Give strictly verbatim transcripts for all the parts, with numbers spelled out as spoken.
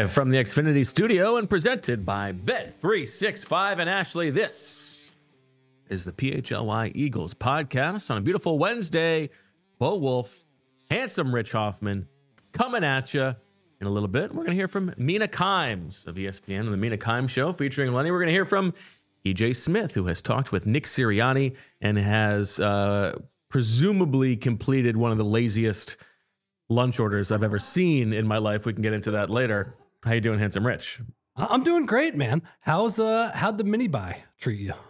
Live from the Xfinity studio and presented by Bet three sixty-five and Ashley. This is the P H L Y Eagles podcast on a beautiful Wednesday. Bo Wolf, handsome Rich Hoffman, coming at you in a little bit. We're going to hear from Mina Kimes of E S P N and the Mina Kimes Show featuring Lenny. We're going to hear from E J Smith, who has talked with Nick Sirianni and has uh, presumably completed one of the laziest lunch orders I've ever seen in my life. We can get into that later. How you doing, handsome Rich? I'm doing great, man. How's uh how'd the mini buy treat you?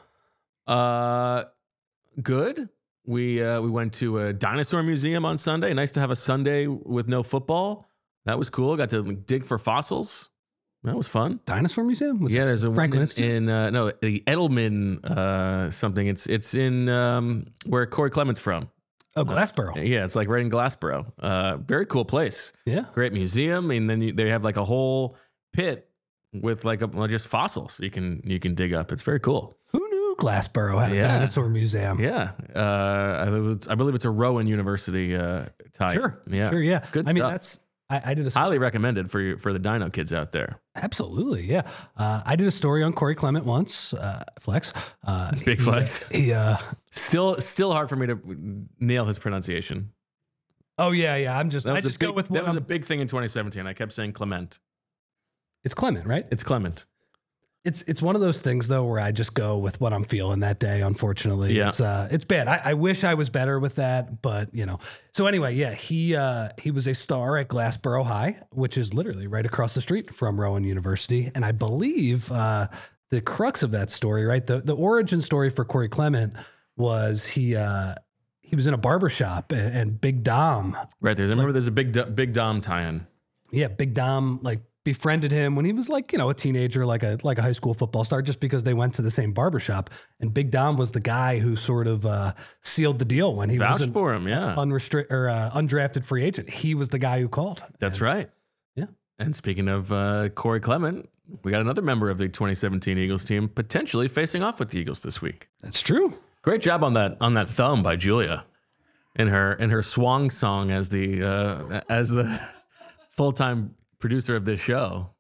Uh, good. We uh, we went to a dinosaur museum on Sunday. Nice to have a Sunday with no football. That was cool. Got to dig for fossils. That was fun. Dinosaur museum? Was yeah, there's a Franklin one in, in uh, no the Edelman uh, something. It's it's in um, where Corey Clement's from. Oh, Glassboro. Uh, yeah, it's like right in Glassboro. Uh, very cool place. Yeah, great museum. And then you, they have like a whole pit with like a, well, just fossils you can you can dig up. It's very cool. Who knew Glassboro had a Yeah. dinosaur museum? Yeah, uh, I, believe it's, I believe it's a Rowan University uh, type. Sure. Yeah, Sure. Yeah. Good I mean, stuff. that's I, I did a Highly recommended for you for the Dino kids out there. absolutely. Yeah. Uh, I did a story on Corey Clement once. Uh, flex. Uh, Big he, flex. He. Uh, Still, still hard for me to nail his pronunciation. oh yeah, yeah. I'm just. That I was just a big, go with that what was I'm, a big thing in twenty seventeen. I kept saying Clement. It's Clement, right? It's Clement. It's it's one of those things though where I just go with what I'm feeling that day. Unfortunately, Yeah. it's uh it's bad. I, I wish I was better with that, but you know. So anyway, yeah, he uh he was a star at Glassboro High, which is literally right across the street from Rowan University, and I believe uh the crux of that story, right? The the origin story for Corey Clement was he uh he was in a barbershop and, and Big Dom, Right there's. I remember there's a big Do- big Dom tie-in. yeah, Big Dom like befriended him when he was like, you know, a teenager, like a like a high school football star, just because they went to the same barbershop. And Big Dom was the guy who sort of uh, sealed the deal when he Vouched was for him. Yeah, unrestricted or uh, undrafted free agent. He was the guy who called. that's And, right. Yeah. And speaking of uh, Corey Clement, we got another member of the twenty seventeen Eagles team potentially facing off with the Eagles this week. That's true. Great job on that on that thumb by Julia, in her in her swang song as the uh, as the full time producer of this show.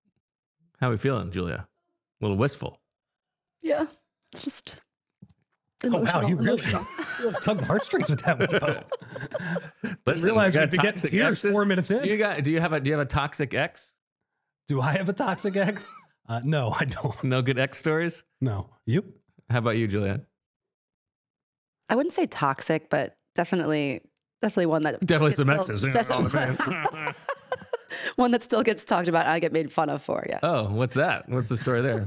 How are we feeling, Julia? A little wistful. Yeah, it's just Oh wow, emotional. you really emotional. you tugged the heartstrings with that one. Bo. Listen, realize you we got could get toxic tears exes? four minutes in. Do you got? Do you have a? Do you have a toxic ex? Do I have a toxic ex? Uh, no, I don't. No good ex stories. No, you? How about you, Julia? I wouldn't say toxic, but definitely, definitely one that Definitely gets some still- exes. that's- one that still gets talked about and I get made fun of for. Yeah, Oh, what's that? What's the story there?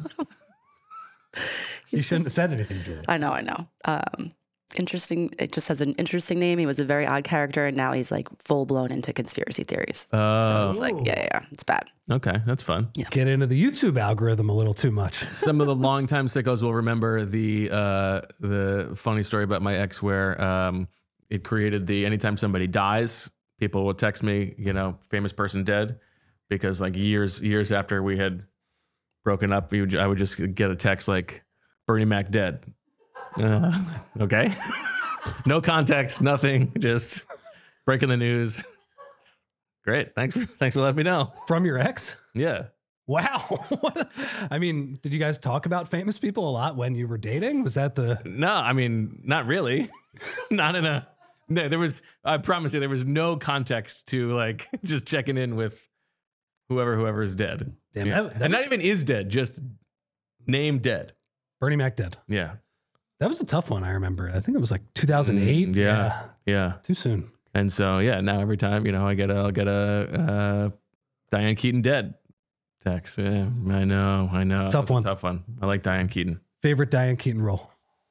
You He's shouldn't just- have said anything, Julie. I know, I know. Um, interesting. It just has an interesting name. He was a very odd character, and now he's like full blown into conspiracy theories. So Oh, it's like, yeah, yeah, yeah, it's bad. okay, that's fun. Get into the YouTube algorithm a little too much. Some of the longtime sickos will remember the uh, the funny story about my ex where um, it created the anytime somebody dies, people will text me, you know, famous person dead, because like years years after we had broken up, we would, I would just get a text like Bernie Mac dead. Uh, okay, no context, nothing, just breaking the news. Great, thanks for thanks for letting me know. From your ex? Yeah. Wow. What- I mean, did you guys talk about famous people a lot when you were dating? Was that the No, I mean, not really. Not in a. No, there was. I promise you, there was no context to like just checking in with whoever whoever is dead. Damn, Yeah. that- that and not was- even is dead, just name dead. Bernie Mac dead? Yeah. That was a tough one. I remember. I think it was like two thousand eight. Mm, yeah. Yeah. Too soon. And so yeah, now every time you know I get a I'll get a uh, Diane Keaton dead text. Yeah, I know, I know. Tough That's a one. tough one. I like Diane Keaton. Favorite Diane Keaton role?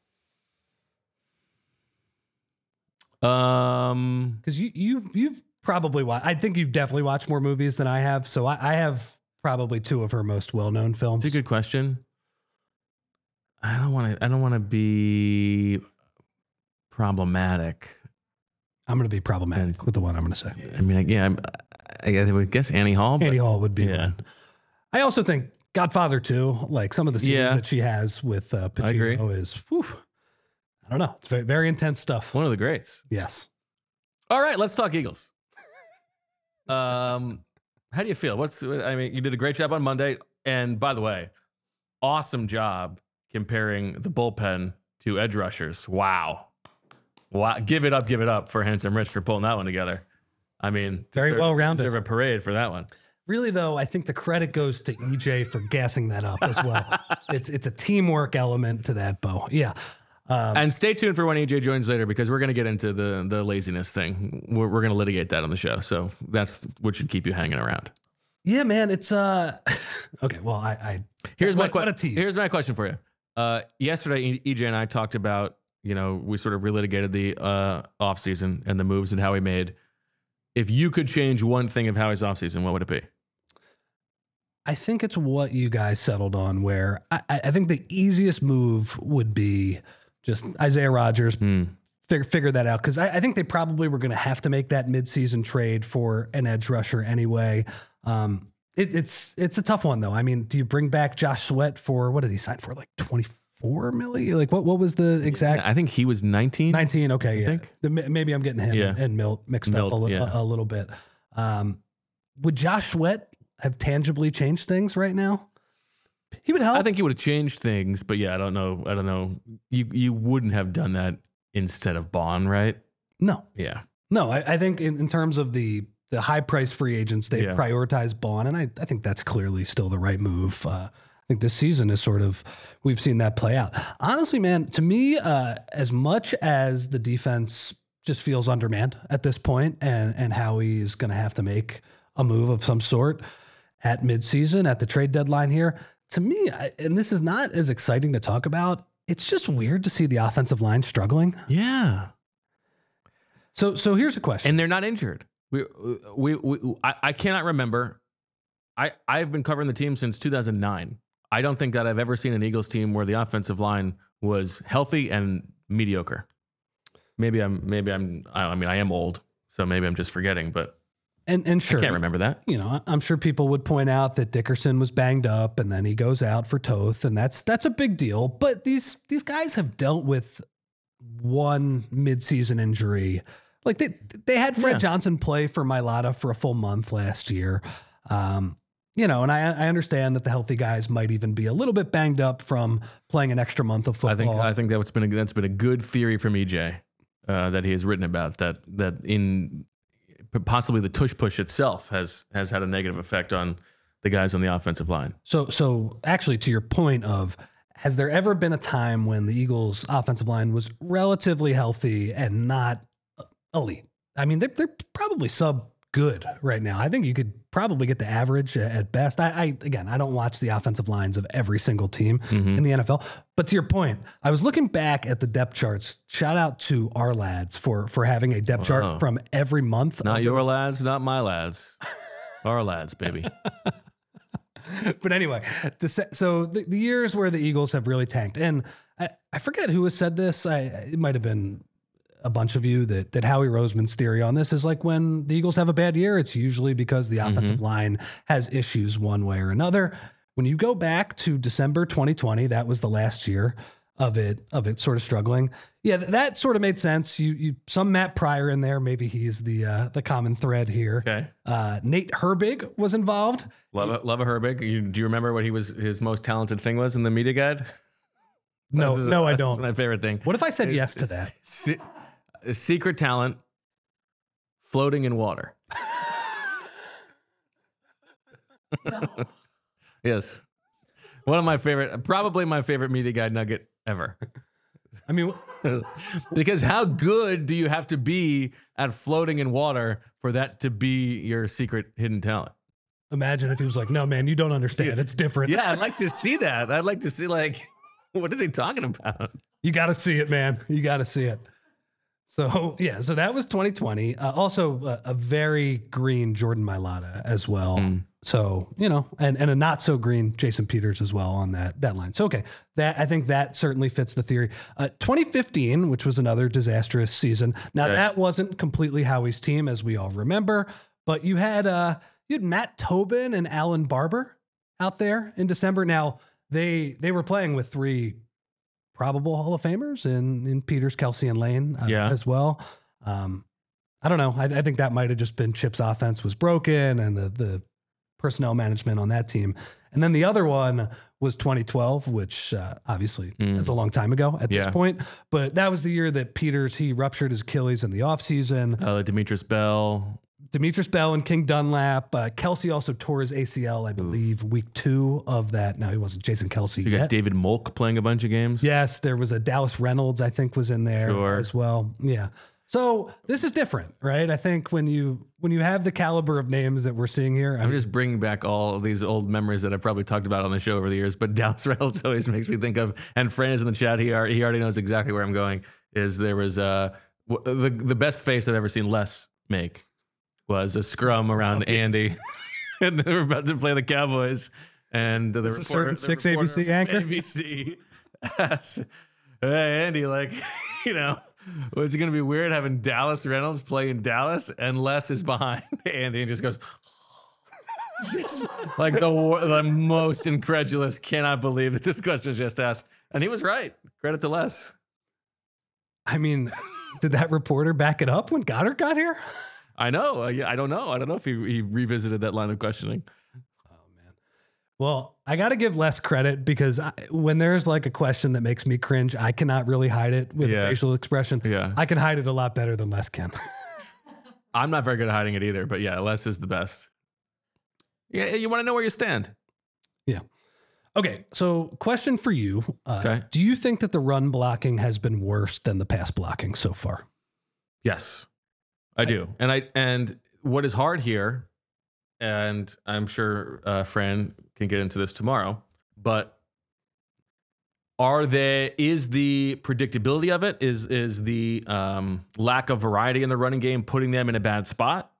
Um. Because you you you've probably watched. I think you've definitely watched more movies than I have. So I, I have probably two of her most well known films. It's a good question. I don't want to. I don't want to be problematic. I'm going to be problematic And- with the one I'm going to say. I mean, yeah, I'm, I, I would guess Annie Hall. But Annie Hall would be yeah. one. I also think Godfather two, like some of the scenes Yeah. that she has with uh, I agree. Pacino is, whew, I don't know. It's very, very intense stuff. One of the greats. Yes. All right, let's talk Eagles. Um, How do you feel? What's I mean, you did a great job on Monday, and by the way, awesome job comparing the bullpen to edge rushers. Wow, wow! Give it up, give it up for Handsome Rich for pulling that one together. I mean, very well rounded. Deserve a parade for that one. Really, though, I think the credit goes to E J for gassing that up as well. it's it's a teamwork element to that, Bo. Yeah. Um, and stay tuned for when E J joins later, because we're going to get into the the laziness thing. We're, we're going to litigate that on the show. So that's what should keep you hanging around. Yeah, man. It's uh okay. Well, I, I here's what, my question. Here's my question for you. Uh, yesterday, E J and I talked about, you know, we sort of relitigated the uh, offseason and the moves and how he made. If you could change one thing of Howie's offseason, what would it be? I think it's what you guys settled on, where I, I think the easiest move would be just Isaiah Rodgers. Mm. Figure, figure that out, because I, I think they probably were going to have to make that midseason trade for an edge rusher anyway. Um, it, it's it's a tough one, though. I mean, do you bring back Josh Sweat for, what did he sign for, like twenty-four million? Like, what what was the exact? Yeah, I think he was nineteen. nineteen, okay, I yeah. think. The, maybe I'm getting him yeah. and, and Milt mixed Milt, up a, li- yeah. a, a little bit. Um, would Josh Sweat have tangibly changed things right now? He would help. I think he would have changed things, but yeah, I don't know. I don't know. You you wouldn't have done that instead of Bond, right? No. Yeah. No, I, I think in, in terms of the the high price free agents, they yeah. prioritize Bond, and I, I think that's clearly still the right move. Uh, I think this season is sort of, we've seen that play out. Honestly, man, to me, uh, as much as the defense just feels undermanned at this point, and and Howie is going to have to make a move of some sort at midseason, at the trade deadline here, to me, I, and this is not as exciting to talk about, it's just weird to see the offensive line struggling. Yeah. So so here's a question. And they're not injured. We we, we I, I cannot remember. I, I've been covering the team since two thousand nine. I don't think that I've ever seen an Eagles team where the offensive line was healthy and mediocre. Maybe I'm maybe I'm I mean I am old, so maybe I'm just forgetting, but And and sure, I can't remember that. You know, I'm sure people would point out that Dickerson was banged up, and then he goes out for Toth, and that's that's a big deal. But these these guys have dealt with one midseason injury. Like they they had Fred Yeah. Johnson play for Mailata for a full month last year. Um, you know, and I I understand that the healthy guys might even be a little bit banged up from playing an extra month of football. I think I think that's been a, that's been a good theory from E J uh, that he has written about, that that in possibly the tush push itself has has had a negative effect on the guys on the offensive line. So, so actually, to your point of, has there ever been a time when the Eagles' offensive line was relatively healthy and not elite? I mean, they're, they're probably sub good right now. I think you could probably get the average at best. I, I again, I don't watch the offensive lines of every single team Mm-hmm. in the N F L. But to your point, I was looking back at the depth charts. Shout out to our lads for for having a depth Wow. chart from every month. Not of your lads, not my lads. Our lads, baby. But anyway, the, se- so the, the years where the Eagles have really tanked, and I, I forget who has said this. I it might have been a bunch of you, that that Howie Roseman's theory on this is like, when the Eagles have a bad year, it's usually because the offensive Mm-hmm. line has issues one way or another. When you go back to December twenty twenty, that was the last year of it of it sort of struggling. Yeah, th- that sort of made sense. You you some Matt Pryor in there, maybe he's the uh, the common thread here. Okay. Uh, Nate Herbig was involved. Love it, love a Herbig. You, do you remember what he was his most talented thing was in the media guide? No, This is- no, I this is don't. my favorite thing. What if I said It's- yes to it's- that? se- a secret talent, floating in water. Yes. One of my favorite, probably my favorite media guide nugget ever. I mean, Because how good do you have to be at floating in water for that to be your secret hidden talent? imagine if he was like, "No, man, you don't understand. It's different. Yeah, I'd like to see that. I'd like to see, like, what is he talking about? You got to see it, man. You got to see it." So yeah, so that was twenty twenty. Uh, also, uh, a very green Jordan Mailata as well. Mm. So you know, and and a not so green Jason Peters as well on that that line. So okay, that I think that certainly fits the theory. Uh, twenty fifteen, which was another disastrous season. Now Okay. that wasn't completely Howie's team, as we all remember, but you had uh you had Matt Tobin and Alan Barber out there in December. Now they they were playing with three probable Hall of Famers in, in Peters, Kelsey, and Lane uh, Yeah. as well. Um, I don't know. I, I think that might have just been Chip's offense was broken, and the the personnel management on that team. And then the other one was twenty twelve, which uh, obviously Mm. that's a long time ago at Yeah. this point. But that was the year that Peters, he ruptured his Achilles in the offseason. Uh, Demetrius Bell. Demetrius Bell and King Dunlap. Uh, Kelsey also tore his A C L, I believe, week two of that. No, he wasn't Jason Kelsey So you got yet. David Molk playing a bunch of games. Yes, there was a Dallas Reynolds, I think, was in there Sure. as well. Yeah. So this is different, right? I think when you when you have the caliber of names that we're seeing here, I I'm mean, just bringing back all of these old memories that I've probably talked about on the show over the years. But Dallas Reynolds always makes me think of, and Fran is in the chat. He already, he already knows exactly where I'm going. Is there was uh, w- the the best face I've ever seen Les make was a scrum around Andy, and they were about to play the Cowboys, and the This is a reporter, certain the six reporter A B C from anchor? A B C asked, "Hey Andy, like, you know." Was it going to be weird having Dallas Reynolds play in Dallas and Les is behind Andy and just goes, just like the, wor- the most incredulous, cannot believe that this question was just asked. And he was right. Credit to Les. I mean, did that reporter back it up when Goddard got here? I know. Uh, yeah, I don't know. I don't know if he, he revisited that line of questioning. Well, I got to give Les credit because I, when there's like a question that makes me cringe, I cannot really hide it with Yeah. a facial expression. Yeah. I can hide it a lot better than Les can. I'm not very good at hiding it either, but yeah, Les is the best. Yeah, you want to know where you stand. Okay, so question for you. Uh, Okay. Do you think that the run blocking has been worse than the pass blocking so far? Yes, I do. And I and what is hard here, and I'm sure uh, Fran can get into this tomorrow, but are there is the predictability of it is is the um, lack of variety in the running game putting them in a bad spot?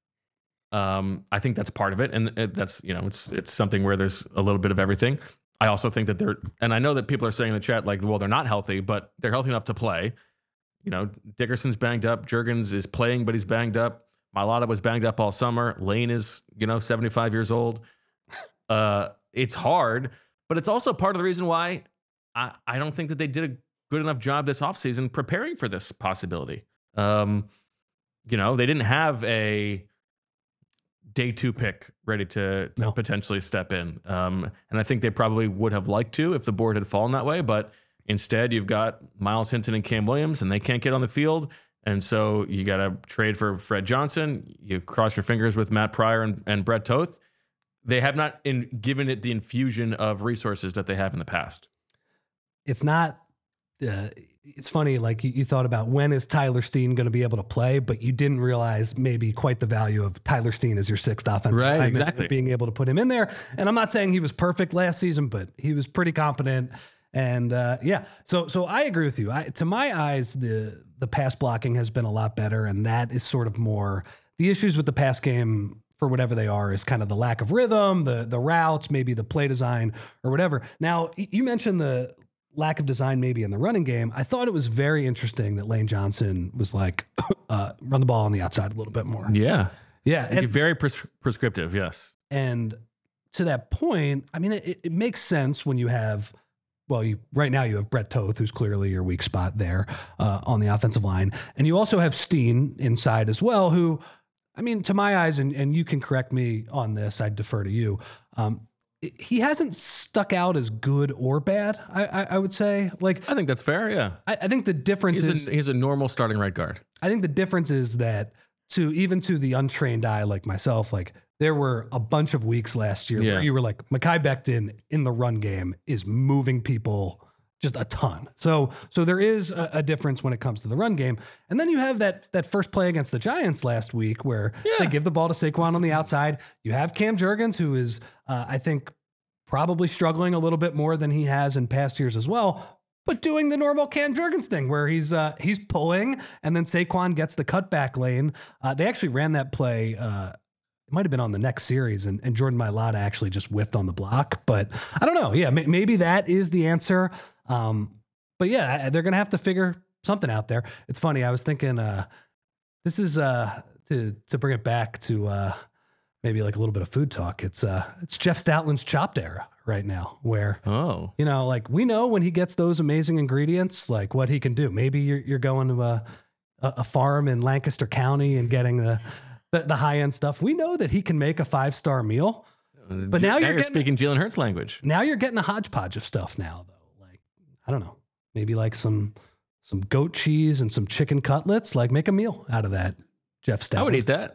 Um, I think that's part of it, and it, that's you know it's it's something where there's a little bit of everything. I also think that they're, and I know that people are saying in the chat like, well, they're not healthy, but they're healthy enough to play. You know, Dickerson's banged up. Jurgens is playing, but he's banged up. Mailata was banged up all summer. Lane is, you know, seventy-five years old. Uh, it's hard, but it's also part of the reason why I, I don't think that they did a good enough job this offseason preparing for this possibility. Um, you know, they didn't have a day two pick ready to, to No. potentially step in. Um, and I think they probably would have liked to if the board had fallen that way, but instead, you've got Miles Hinton and Cam Williams, and they can't get on the field. And so you got to trade for Fred Johnson. You cross your fingers with Matt Pryor and, and Brett Toth. They have not in, given it the infusion of resources that they have in the past. It's not, uh, it's funny, like you, you thought about when is Tyler Steen going to be able to play, but you didn't realize maybe quite the value of Tyler Steen as your sixth offensive Right, lineman, exactly. being able to put him in there. And I'm not saying he was perfect last season, but he was pretty competent. And uh, yeah, so so I agree with you. I, to my eyes, the the pass blocking has been a lot better, and that is sort of more the issues with the pass game for whatever they are is kind of the lack of rhythm, the the routes, maybe the play design or whatever. Now y- you mentioned the lack of design maybe in the running game. I thought it was very interesting that Lane Johnson was like uh, run the ball on the outside a little bit more. Yeah. Yeah, And and, very pres- prescriptive, yes. and to that point, I mean, it, it makes sense when you have. Well, you right now you have Brett Toth, who's clearly your weak spot there uh, on the offensive line. And you also have Steen inside as well, who, I mean, to my eyes, and, and you can correct me on this, I'd defer to you. Um, he hasn't stuck out as good or bad, I, I, I would say. Like, I think that's fair, yeah. I, I think the difference He's is, a, he's a normal starting right guard. I think the difference is that to even to the untrained eye like myself, like there were a bunch of weeks last year Yeah. where you were like, Mekhi Becton in the run game is moving people just a ton. So so there is a, a difference when it comes to the run game. And then you have that that first play against the Giants last week where Yeah. they give the ball to Saquon on the outside. You have Cam Jurgens, who is, uh, I think, probably struggling a little bit more than he has in past years as well. But doing the normal Cam Jurgens thing where he's uh, he's pulling and then Saquon gets the cutback lane. Uh, they actually ran that play. Uh, it might have been on the next series, and, and Jordan Mailata actually just whiffed on the block. But I don't know. Yeah, may, maybe that is the answer. Um, but yeah, they're going to have to figure something out there. It's funny. I was thinking uh, this is uh, to to bring it back to uh, maybe like a little bit of food talk. It's uh, it's Jeff Stoutland's Chopped era right now, where Oh. you know, like we know when he gets those amazing ingredients, like what he can do. Maybe you're you're going to a a farm in Lancaster County and getting the the, the high end stuff. We know that he can make a five star meal. But now, now you're, you're getting, speaking Jalen Hurts language. Now you're getting a hodgepodge of stuff now, though. Like, I don't know, maybe like some some goat cheese and some chicken cutlets. Like, make a meal out of that, Jeff Stoutland. I would eat that.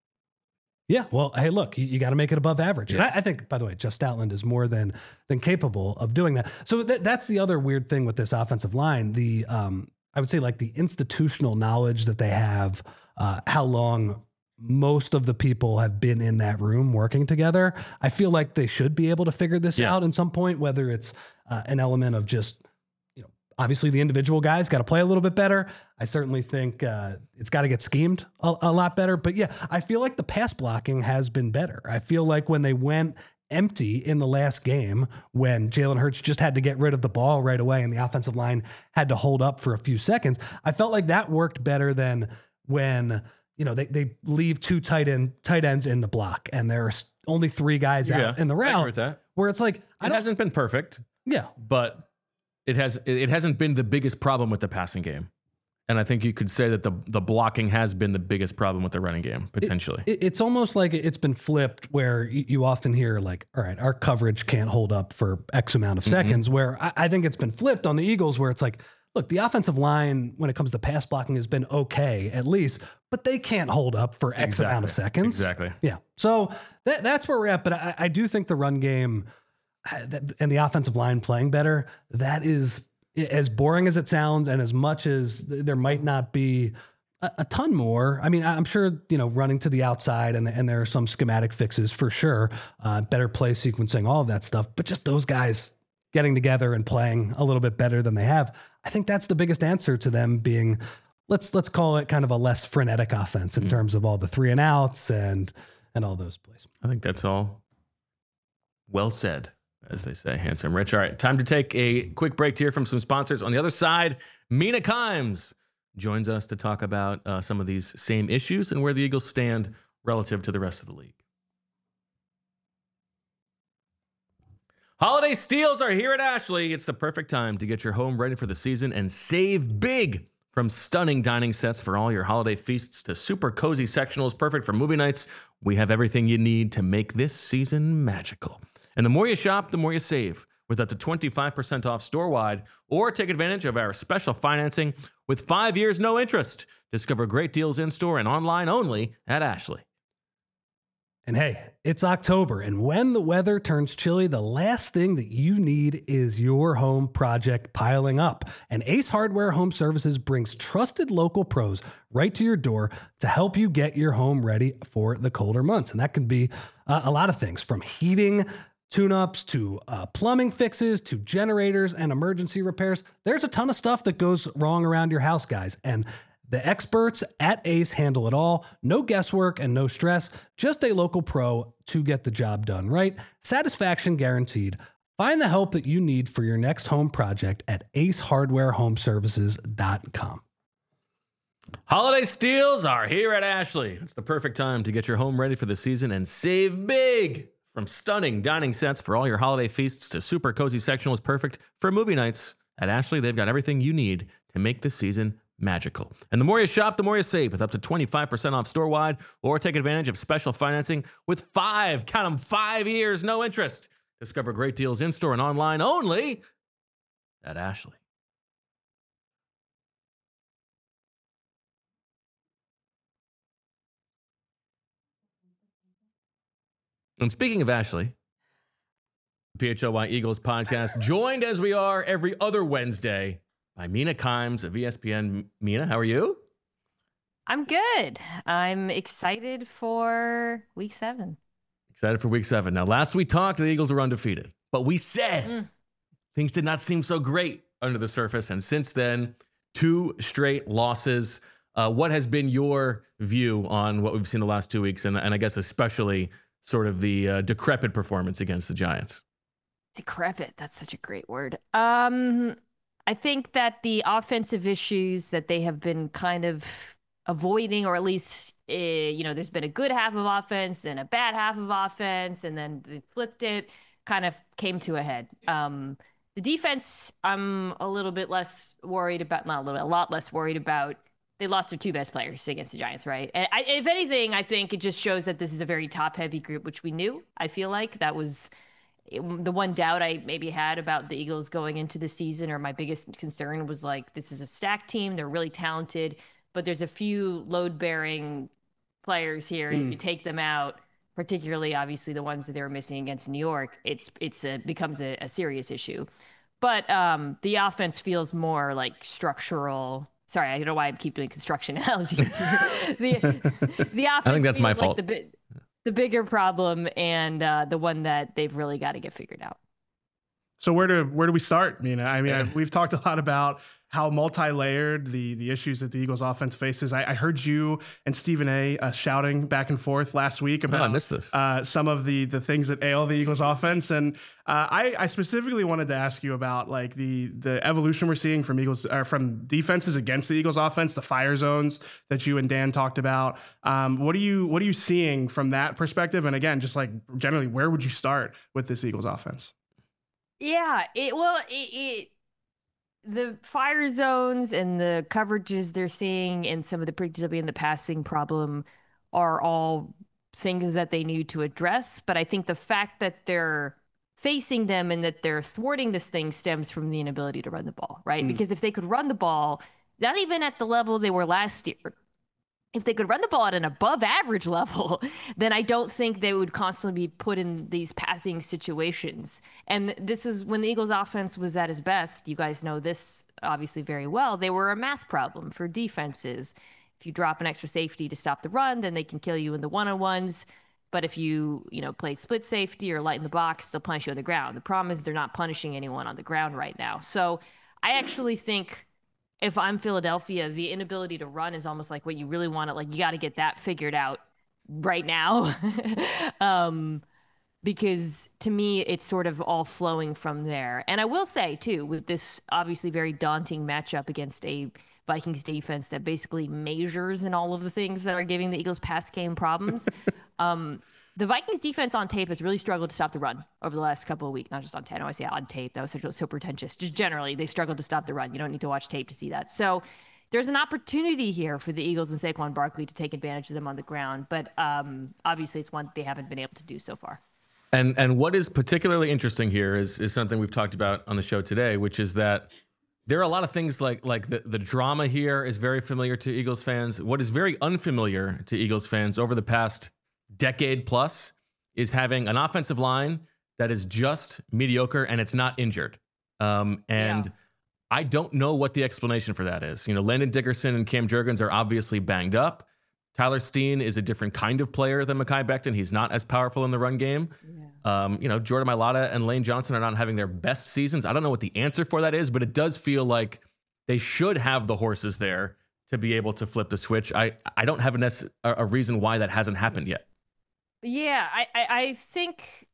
Yeah, well, hey, look, you, you got to make it above average. Yeah. And I, I think, by the way, Jeff Stoutland is more than than capable of doing that. So th- that's the other weird thing with this offensive line. The um, I would say like the institutional knowledge that they have, uh, how long most of the people have been in that room working together. I feel like they should be able to figure this Yeah. out at some point, whether it's uh, an element of just, you know, obviously the individual guys got to play a little bit better. I certainly think uh, it's got to get schemed a, a lot better. But yeah, I feel like the pass blocking has been better. I feel like when they went empty in the last game, when Jalen Hurts just had to get rid of the ball right away and the offensive line had to hold up for a few seconds, I felt like that worked better than when, you know, they, they leave two tight end tight ends in the block and there's only three guys Yeah, out in the I agree route, with that. where it's like, I It don't, hasn't been perfect, yeah, but it has. It hasn't been the biggest problem with the passing game, and I think you could say that the the blocking has been the biggest problem with the running game potentially. It, it's almost like it's been flipped where you, you often hear like, all right, our coverage can't hold up for X amount of seconds, mm-hmm. where I, I think it's been flipped on the Eagles where it's like, look, the offensive line, when it comes to pass blocking, has been okay, at least, but they can't hold up for X Exactly. amount of seconds. Exactly. Yeah. So that, that's where we're at. But I, I do think the run game and the offensive line playing better, that is, as boring as it sounds, and as much as there might not be a, a ton more. I mean, I'm sure, you know, running to the outside and, and there are some schematic fixes for sure, uh, better play sequencing, all of that stuff. But just those guys getting together and playing a little bit better than they have, I think that's the biggest answer to them being, let's let's call it kind of a less frenetic offense in mm-hmm. terms of all the three and outs and and all those plays. I think that's all well said, as they say. Handsome Rich. All right, time to take a quick break to hear from some sponsors. On the other side, Mina Kimes joins us to talk about uh, some of these same issues and where the Eagles stand relative to the rest of the league. Holiday steals are here at Ashley. It's the perfect time to get your home ready for the season and save big. From stunning dining sets for all your holiday feasts to super cozy sectionals perfect for movie nights, we have everything you need to make this season magical. And the more you shop, the more you save, with up to twenty-five percent off store-wide, or take advantage of our special financing with five years no interest. Discover great deals in-store and online only at Ashley. And hey, it's October, and when the weather turns chilly, the last thing that you need is your home project piling up. And Ace Hardware Home Services brings trusted local pros right to your door to help you get your home ready for the colder months. And that can be uh, a lot of things, from heating tune-ups to uh, plumbing fixes to generators and emergency repairs. There's a ton of stuff that goes wrong around your house, guys. And the experts at Ace handle it all. No guesswork and no stress. Just a local pro to get the job done right. Satisfaction guaranteed. Find the help that you need for your next home project at ace hardware home services dot com. Holiday steals are here at Ashley. It's the perfect time to get your home ready for the season and save big. From stunning dining sets for all your holiday feasts to super cozy sectionals perfect for movie nights, at Ashley, they've got everything you need to make this season magical. And the more you shop, the more you save, with up to twenty-five percent off store-wide, or take advantage of special financing with five, count them, five years, no interest. Discover great deals in-store and online only at Ashley. And speaking of Ashley, P H L Y Eagles podcast, joined as we are every other Wednesday by Mina Kimes of E S P N. Mina, how are you? I'm good. I'm excited for week seven. Excited for week seven. Now, last we talked, the Eagles were undefeated, but we said mm. things did not seem so great under the surface. And since then, two straight losses. Uh, what has been your view on what we've seen the last two weeks? And, and I guess especially sort of the uh, decrepit performance against the Giants. Decrepit. That's such a great word. Um, I think that the offensive issues that they have been kind of avoiding, or at least, uh, you know, there's been a good half of offense and a bad half of offense, and then they flipped it, kind of came to a head. Um, the defense, I'm a little bit less worried about, not a little, a lot less worried about. they lost their two best players against the Giants, right? And I, if anything, I think it just shows that this is a very top-heavy group, which we knew. I feel like that was the one doubt I maybe had about the Eagles going into the season, or my biggest concern was like, this is a stacked team. They're really talented, but there's a few load-bearing players here. And mm. if you take them out, particularly obviously the ones that they were missing against New York, it's it's a, becomes a, a serious issue. But um, the offense feels more like structural. Sorry, I don't know why I keep doing construction analogies. the, the offense I think that's my like fault. The, the bigger problem, and uh, the one that they've really got to get figured out. So where do where do we start, Mina? I mean, I, we've talked a lot about how multi-layered the the issues that the Eagles offense faces. I, I heard you and Stephen A. Uh, shouting back and forth last week about oh, I missed this. Uh, some of the the things that ail the Eagles offense, and uh, I, I specifically wanted to ask you about like the the evolution we're seeing from Eagles or from defenses against the Eagles offense, the fire zones that you and Dan talked about. Um, what are you what are you seeing from that perspective? And again, just like generally, where would you start with this Eagles offense? Yeah, it well, it, it the fire zones and the coverages they're seeing and some of the predictability and the passing problem are all things that they need to address. But I think the fact that they're facing them and that they're thwarting this thing stems from the inability to run the ball, right? Mm. Because if they could run the ball, not even at the level they were last year, if they could run the ball at an above average level, then I don't think they would constantly be put in these passing situations. And this is when the Eagles offense was at its best. You guys know this obviously very well. They were a math problem for defenses. If you drop an extra safety to stop the run, then they can kill you in the one-on-ones. But if you, you know, play split safety or light in the box, they'll punish you on the ground. The problem is they're not punishing anyone on the ground right now. So I actually think if I'm Philadelphia, the inability to run is almost like what you really want to, like, you got to get that figured out right now. um, because to me, it's sort of all flowing from there. And I will say, too, with this obviously very daunting matchup against a Vikings defense that basically measures in all of the things that are giving the Eagles pass game problems, um, the Vikings defense on tape has really struggled to stop the run over the last couple of weeks. Not just on tape. I always say on tape. That was so, so pretentious. Just generally, they've struggled to stop the run. You don't need to watch tape to see that. So there's an opportunity here for the Eagles and Saquon Barkley to take advantage of them on the ground. But um, obviously, it's one they haven't been able to do so far. And and what is particularly interesting here is is something we've talked about on the show today, which is that there are a lot of things like like the, the drama here is very familiar to Eagles fans. What is very unfamiliar to Eagles fans over the past decade plus is having an offensive line that is just mediocre and it's not injured. Um, and yeah. I don't know what the explanation for that is. You know, Landon Dickerson and Cam Jurgens are obviously banged up. Tyler Steen is a different kind of player than Mekhi Becton. He's not as powerful in the run game. Yeah. Um, you know, Jordan Mailata and Lane Johnson are not having their best seasons. I don't know what the answer for that is, but it does feel like they should have the horses there to be able to flip the switch. I, I don't have a, nec- a reason why that hasn't happened yet. Yeah, I, I, I think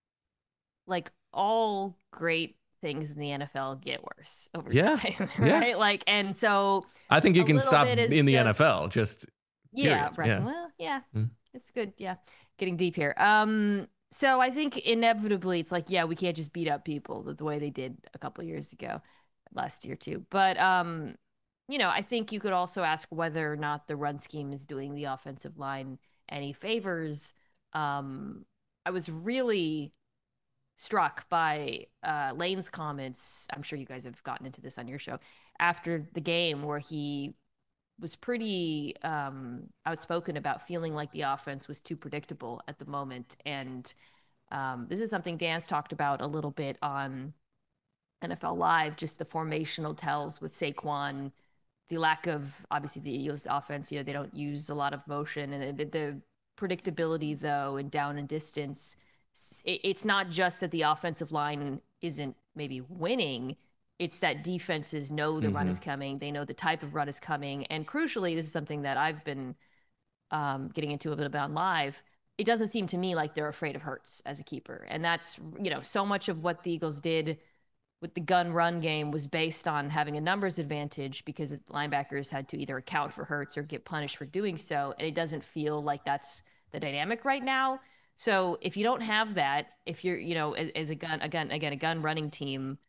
like all great things in the N F L get worse over yeah. time, right? Yeah. Like, and so I think you can stop in the just, N F L. Just yeah, period. right. Yeah. Well, yeah, mm. It's good. Yeah, getting deep here. Um, so I think inevitably it's like, yeah, we can't just beat up people the, the way they did a couple of years ago, last year too. But um, you know, I think you could also ask whether or not the run scheme is doing the offensive line any favors. Um, I was really struck by uh, Lane's comments. I'm sure you guys have gotten into this on your show after the game, where he was pretty um, outspoken about feeling like the offense was too predictable at the moment. And um, this is something Dan's talked about a little bit on N F L Live, just the formational tells with Saquon, the lack of, obviously, the Eagles offense, you know, they don't use a lot of motion, and the, the predictability, though, and down and distance. It's not just that the offensive line isn't maybe winning. It's that defenses know the mm-hmm. run is coming. They know the type of run is coming. And crucially, this is something that I've been um, getting into a little bit on Live. It doesn't seem to me like they're afraid of Hurts as a keeper. And that's, you know, so much of what the Eagles did with the gun run game was based on having a numbers advantage because linebackers had to either account for Hurts or get punished for doing so. And it doesn't feel like that's the dynamic right now. So if you don't have that, if you're, you know, as, as a gun, again, again, a gun running team,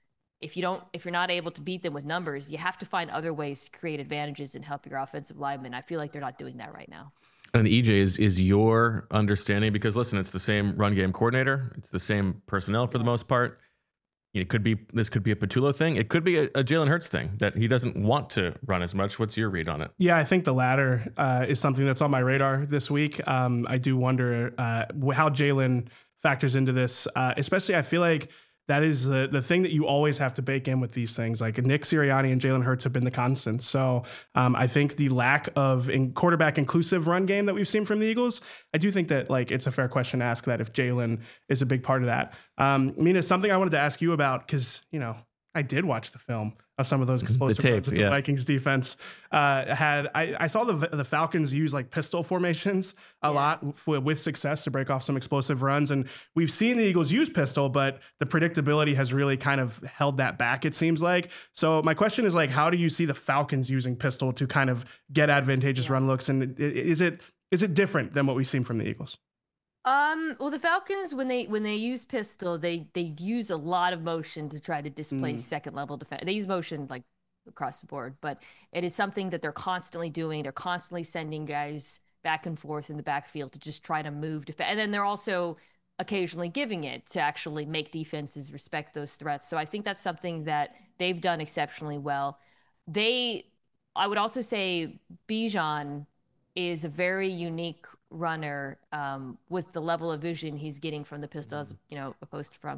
if you don't, if you're not able to beat them with numbers, you have to find other ways to create advantages and help your offensive linemen. I feel like they're not doing that right now. And E J, is is your understanding, because listen, it's the same run game coordinator, it's the same personnel for the most part. It could be this could be a Patullo thing. It could be a, a Jalen Hurts thing that he doesn't want to run as much. What's your read on it? Yeah, I think the latter uh, is something that's on my radar this week. Um, I do wonder uh, how Jalen factors into this, uh, especially I feel like that is the the thing that you always have to bake in with these things. Like Nick Sirianni and Jalen Hurts have been the constants. So um, I think the lack of in quarterback inclusive run game that we've seen from the Eagles, I do think that like it's a fair question to ask that if Jalen is a big part of that. Um, Mina, something I wanted to ask you about, because, you know, I did watch the film of some of those explosive tape, runs that yeah. the Vikings defense uh, had. I, I saw the the Falcons use like pistol formations a Yeah. lot w- with success to break off some explosive runs. And we've seen the Eagles use pistol, but the predictability has really kind of held that back, it seems like. So my question is like, how do you see the Falcons using pistol to kind of get advantageous run looks? And i- is it is it different than what we've seen from the Eagles? Um, well, the Falcons, when they when they use pistol, they they use a lot of motion to try to displace Mm. second level defense. They use motion like across the board, but it is something that they're constantly doing. They're constantly sending guys back and forth in the backfield to just try to move defense. And then they're also occasionally giving it to actually make defenses respect those threats. So I think that's something that they've done exceptionally well. They, I would also say Bijan is a very unique runner um, with the level of vision he's getting from the pistol, as you know, opposed from.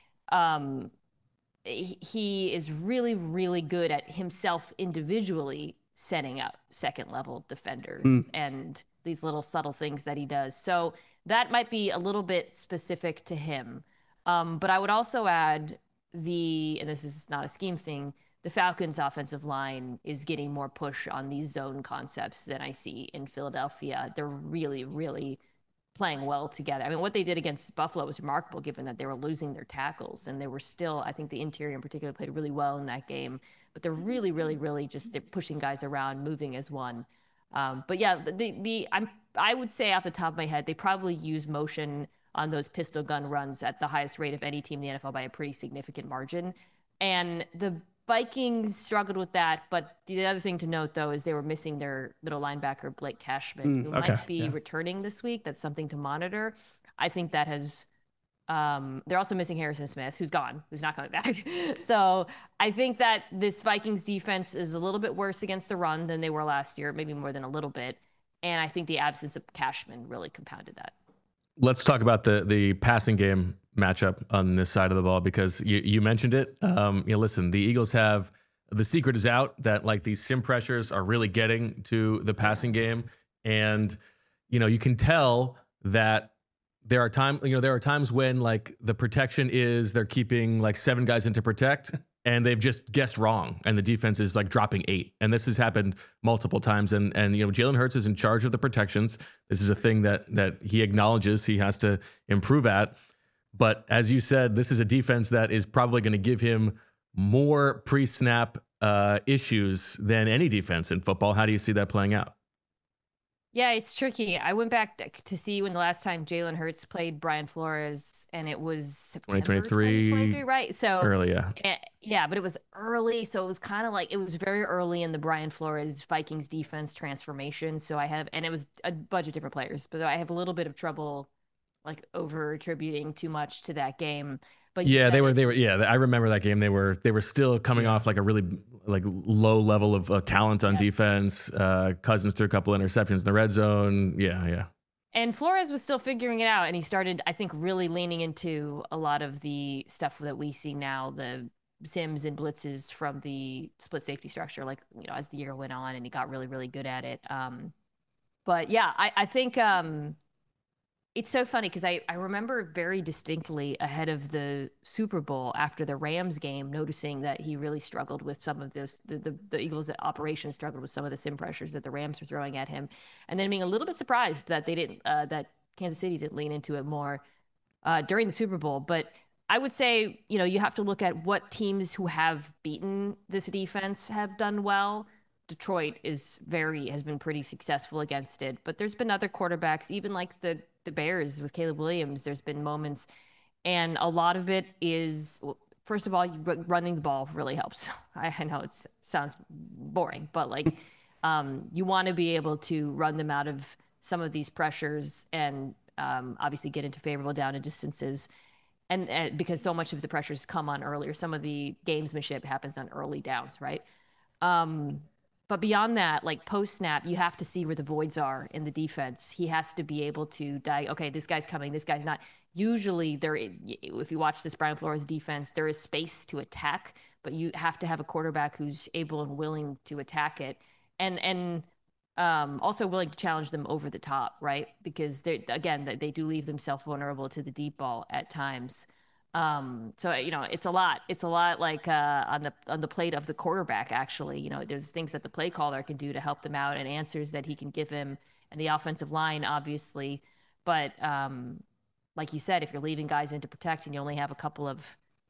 Um, he, he is really, really good at himself individually setting up second level defenders Mm. and these little subtle things that he does. So that might be a little bit specific to him. Um, but I would also add the, and this is not a scheme thing, the Falcons' offensive line is getting more push on these zone concepts than I see in Philadelphia. They're really, really playing well together. I mean, what they did against Buffalo was remarkable, given that they were losing their tackles, and they were still, I think the interior in particular played really well in that game. But they're really, really, really just they're pushing guys around, moving as one. Um, but yeah, the the I'm I would say off the top of my head, they probably use motion on those pistol gun runs at the highest rate of any team in the N F L by a pretty significant margin. And the Vikings struggled with that, but the other thing to note, though, is they were missing their middle linebacker, Blake Cashman, Mm, who okay, might be yeah. returning this week. That's something to monitor. I think that has. Um, they're also missing Harrison Smith, who's gone, who's not coming back. So I think that this Vikings defense is a little bit worse against the run than they were last year, maybe more than a little bit. And I think the absence of Cashman really compounded that. Let's talk about the the passing game matchup on this side of the ball, because you, you mentioned it. Um, you know, listen, the Eagles have, the secret is out that like these sim pressures are really getting to the passing game. And, you know, you can tell that there are times, you know, there are times when like the protection is they're keeping like seven guys in to protect and they've just guessed wrong and the defense is like dropping eight. And this has happened multiple times. And, and, you know, Jalen Hurts is in charge of the protections. This is a thing that, that he acknowledges he has to improve at. But as you said, this is a defense that is probably going to give him more pre-snap uh, issues than any defense in football. How do you see that playing out? Yeah, it's tricky. I went back to see when the last time Jalen Hurts played Brian Flores, and it was September twenty twenty-three, twenty twenty-three, right? So early, yeah. eh, yeah, but it was early, so it was kind of like it was very early in the Brian Flores Vikings defense transformation. So I have, and it was a bunch of different players, but I have a little bit of trouble like over attributing too much to that game. But you Yeah, said they were. it- They were. Yeah, I remember that game. They were. They were still coming off like a really like low level of uh, talent on Yes. defense. Uh, Cousins threw a couple interceptions in the red zone. Yeah, yeah. And Flores was still figuring it out, and he started, I think, really leaning into a lot of the stuff that we see now, the sims and blitzes from the split safety structure, like, you know, as the year went on, and he got really, really good at it. Um, but yeah, I, I think um, it's so funny because I, I remember very distinctly ahead of the Super Bowl after the Rams game, noticing that he really struggled with some of this, the, the, the Eagles operation struggled with some of the sim pressures that the Rams were throwing at him. And then being a little bit surprised that they didn't, uh, that Kansas City didn't lean into it more uh, during the Super Bowl. But I would say, you know, you have to look at what teams who have beaten this defense have done well. Detroit is very, has been pretty successful against it, but there's been other quarterbacks, even like the, the Bears with Caleb Williams, there's been moments, and a lot of it is first of all, you, running the ball really helps. I, I know it sounds boring, but like um, you want to be able to run them out of some of these pressures and um, obviously get into favorable down and distances. And, and because so much of the pressures come on earlier, some of the gamesmanship happens on early downs, right? Um, but beyond that, like post snap, you have to see where the voids are in the defense. He has to be able to die. Okay, this guy's coming, this guy's not. Usually, there, if you watch this Brian Flores defense, there is space to attack, but you have to have a quarterback who's able and willing to attack it, and and um, also willing to challenge them over the top, right? Because they again, they do leave themselves vulnerable to the deep ball at times. Um, so, you know, it's a lot, it's a lot like, uh, on the, on the plate of the quarterback, actually, you know, there's things that the play caller can do to help them out and answers that he can give him and the offensive line, obviously. But, um, like you said, if you're leaving guys in to protect and you only have a couple of,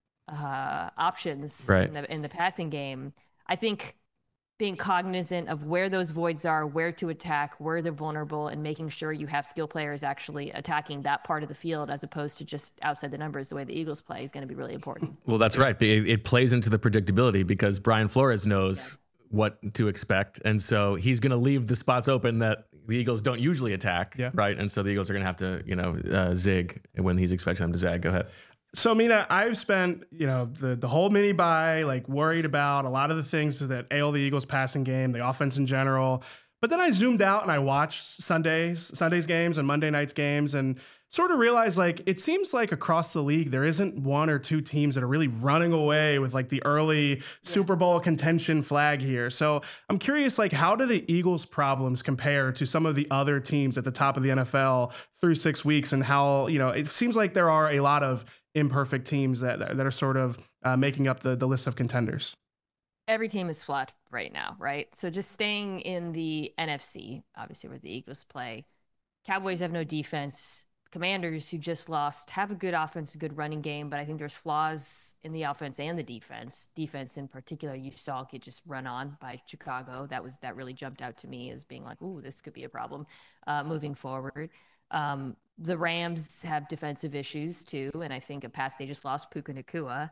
uh, options right. in the, in the passing game, I think being cognizant of where those voids are, where to attack, where they're vulnerable, and making sure you have skill players actually attacking that part of the field as opposed to just outside the numbers, the way the Eagles play, is going to be really important. Well, that's right. It, it plays into the predictability because Brian Flores knows yeah. what to expect. And so he's going to leave the spots open that the Eagles don't usually attack, yeah. right? And so the Eagles are going to have to, you know, uh, zig when he's expecting them to zag. Go ahead. So, Mina, I've spent, you know, the, the whole mini bye, like worried about a lot of the things that ail the Eagles passing game, the offense in general. But then I zoomed out and I watched Sundays, Sundays games and Monday nights games and sort of realized like, it seems like across the league, there isn't one or two teams that are really running away with like the early yeah. Super Bowl contention flag here. So I'm curious, like, how do the Eagles' problems compare to some of the other teams at the top of the N F L through six weeks and how, you know, it seems like there are a lot of imperfect teams that that are sort of uh, making up the, the list of contenders. Every team is flat right now, right? So just staying in the N F C, obviously where the Eagles play, Cowboys have no defense. Commanders, who just lost, have a good offense, a good running game, but I think there's flaws in the offense and the defense. Defense in particular, you saw get just run on by Chicago. That was that really jumped out to me as being like, ooh, this could be a problem uh, moving forward. Um, the Rams have defensive issues too, and I think a pass they just lost Puka Nacua.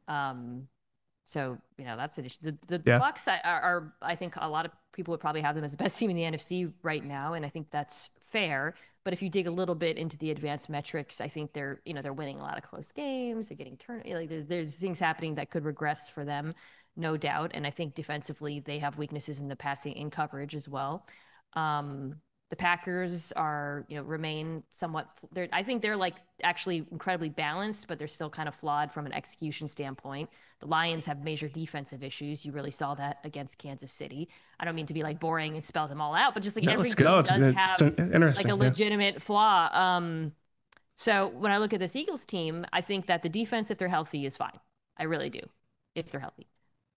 Um, so you know that's an issue. The, the yeah. Bucs are, are, I think, a lot of people would probably have them as the best team in the N F C right now, and I think that's fair. But if you dig a little bit into the advanced metrics, I think they're you know they're winning a lot of close games. They're getting turn like there's there's things happening that could regress for them, no doubt. And I think defensively they have weaknesses in the passing in coverage as well. Um, The Packers are, you know, remain somewhat, they're, I think they're like actually incredibly balanced, but they're still kind of flawed from an execution standpoint. The Lions have major defensive issues. You really saw that against Kansas City. I don't mean to be like boring and spell them all out, but just like no, every team no, does it's, have it's like a legitimate yeah. flaw. Um, so when I look at this Eagles team, I think that the defense, if they're healthy, is fine. I really do, if they're healthy.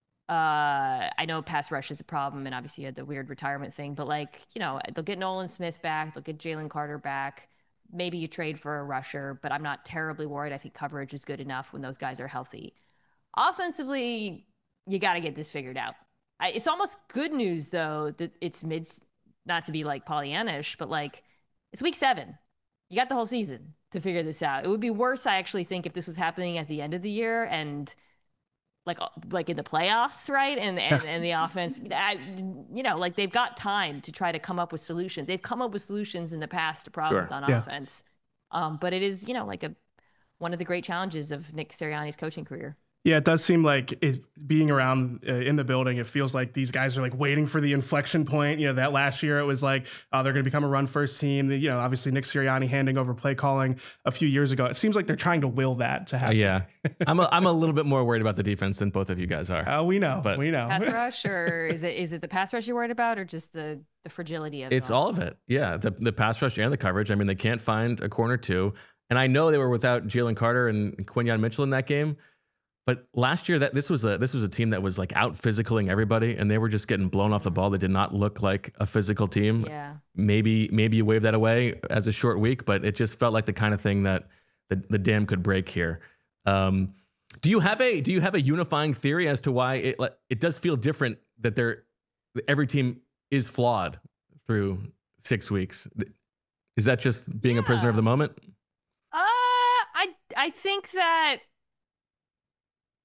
Uh, I know pass rush is a problem, and obviously you had the weird retirement thing, but like, you know, they'll get Nolan Smith back, they'll get Jalen Carter back. Maybe you trade for a rusher, but I'm not terribly worried. I think coverage is good enough when those guys are healthy. Offensively, you got to get this figured out. I, it's almost good news though that it's mid, not to be like Pollyannish, but like it's week seven. You got the whole season to figure this out. It would be worse, I actually think, if this was happening at the end of the year and like like in the playoffs, right? And and, and the offense, I, you know, like they've got time to try to come up with solutions. They've come up with solutions in the past to problems sure. on yeah. offense. Um, but it is, you know, like a one of the great challenges of Nick Sirianni's coaching career. Yeah, it does seem like it, being around uh, in the building, it feels like these guys are like waiting for the inflection point. You know, that last year it was like, oh, they're going to become a run first team. You know, obviously Nick Sirianni handing over play calling a few years ago. It seems like they're trying to will that to happen. Uh, yeah, I'm a, I'm a little bit more worried about the defense than both of you guys are. Uh, we know, but we know. Pass rush, or is it is it the pass rush you're worried about, or just the the fragility of it? It's all of it. Yeah, the the pass rush and the coverage. I mean, they can't find a corner two, and I know they were without Jalen Carter and Quinyon Mitchell in that game. But last year, that this was a this was a team that was like out physicaling everybody, and they were just getting blown off the ball. They did not look like a physical team. Yeah. Maybe maybe you wave that away as a short week, but it just felt like the kind of thing that the, the dam could break here. Um, do you have a do you have a unifying theory as to why it it does feel different that they're every team is flawed through six weeks? Is that just being yeah. a prisoner of the moment? Uh, I I think that.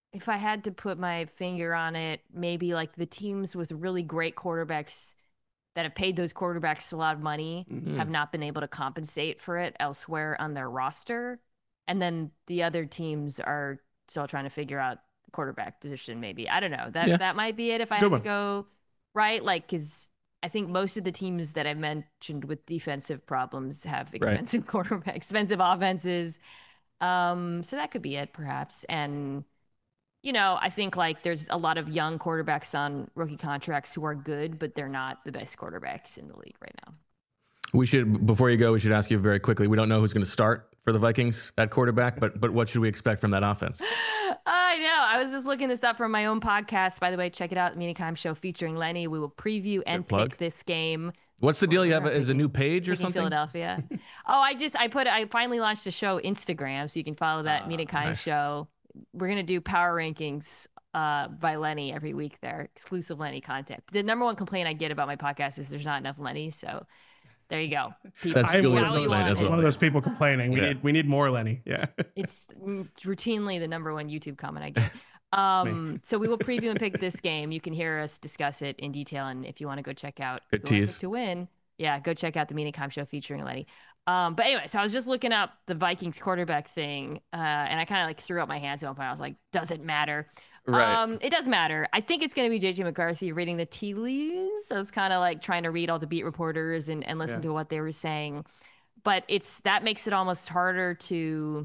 if I had to put my finger on it, maybe like the teams with really great quarterbacks that have paid those quarterbacks a lot of money Mm-hmm. have not been able to compensate for it elsewhere on their roster. And then the other teams are still trying to figure out the quarterback position, maybe. I don't know. That Yeah. that might be it if I Good had one. to go, right? Like, because I think most of the teams that I mentioned with defensive problems have expensive quarterback, expensive offenses. Um, so that could be it, perhaps. And you know, I think like there's a lot of young quarterbacks on rookie contracts who are good, but they're not the best quarterbacks in the league right now. We should, before you go, we should ask you very quickly. We don't know who's going to start for the Vikings at quarterback, but but what should we expect from that offense? I know. I was just looking this up from my own podcast. By the way, check it out, Mina Kimes Show featuring Lenny. We will preview and Good plug. pick this game. What's the deal? You have We're a, is a new page or picking something? Philadelphia. oh, I just I put I finally launched a show Instagram, so you can follow that Ah, Mina Kimes nice. Show. We're gonna do power rankings uh, by Lenny every week there, exclusive Lenny content. The number one complaint I get about my podcast is there's not enough Lenny, so there you go. People, That's I'm Julia's now you complaint want as it. well. one of those people complaining. We Yeah. need we need more Lenny. Yeah. It's routinely the number one YouTube comment I get. Um, so we will preview and pick this game. You can hear us discuss it in detail, and if you want to go check out Good who I tease. picked to win, yeah, go check out the Mina Kimes Show featuring Lenny. Um, but anyway, so I was just looking up the Vikings quarterback thing, uh, and I kind of like threw up my hands at one point. I was like, does it matter? Right. Um, it does matter. I think it's going to be J J McCarthy reading the tea leaves. I was kind of like trying to read all the beat reporters and, and listen Yeah. to what they were saying. But it's that makes it almost harder to,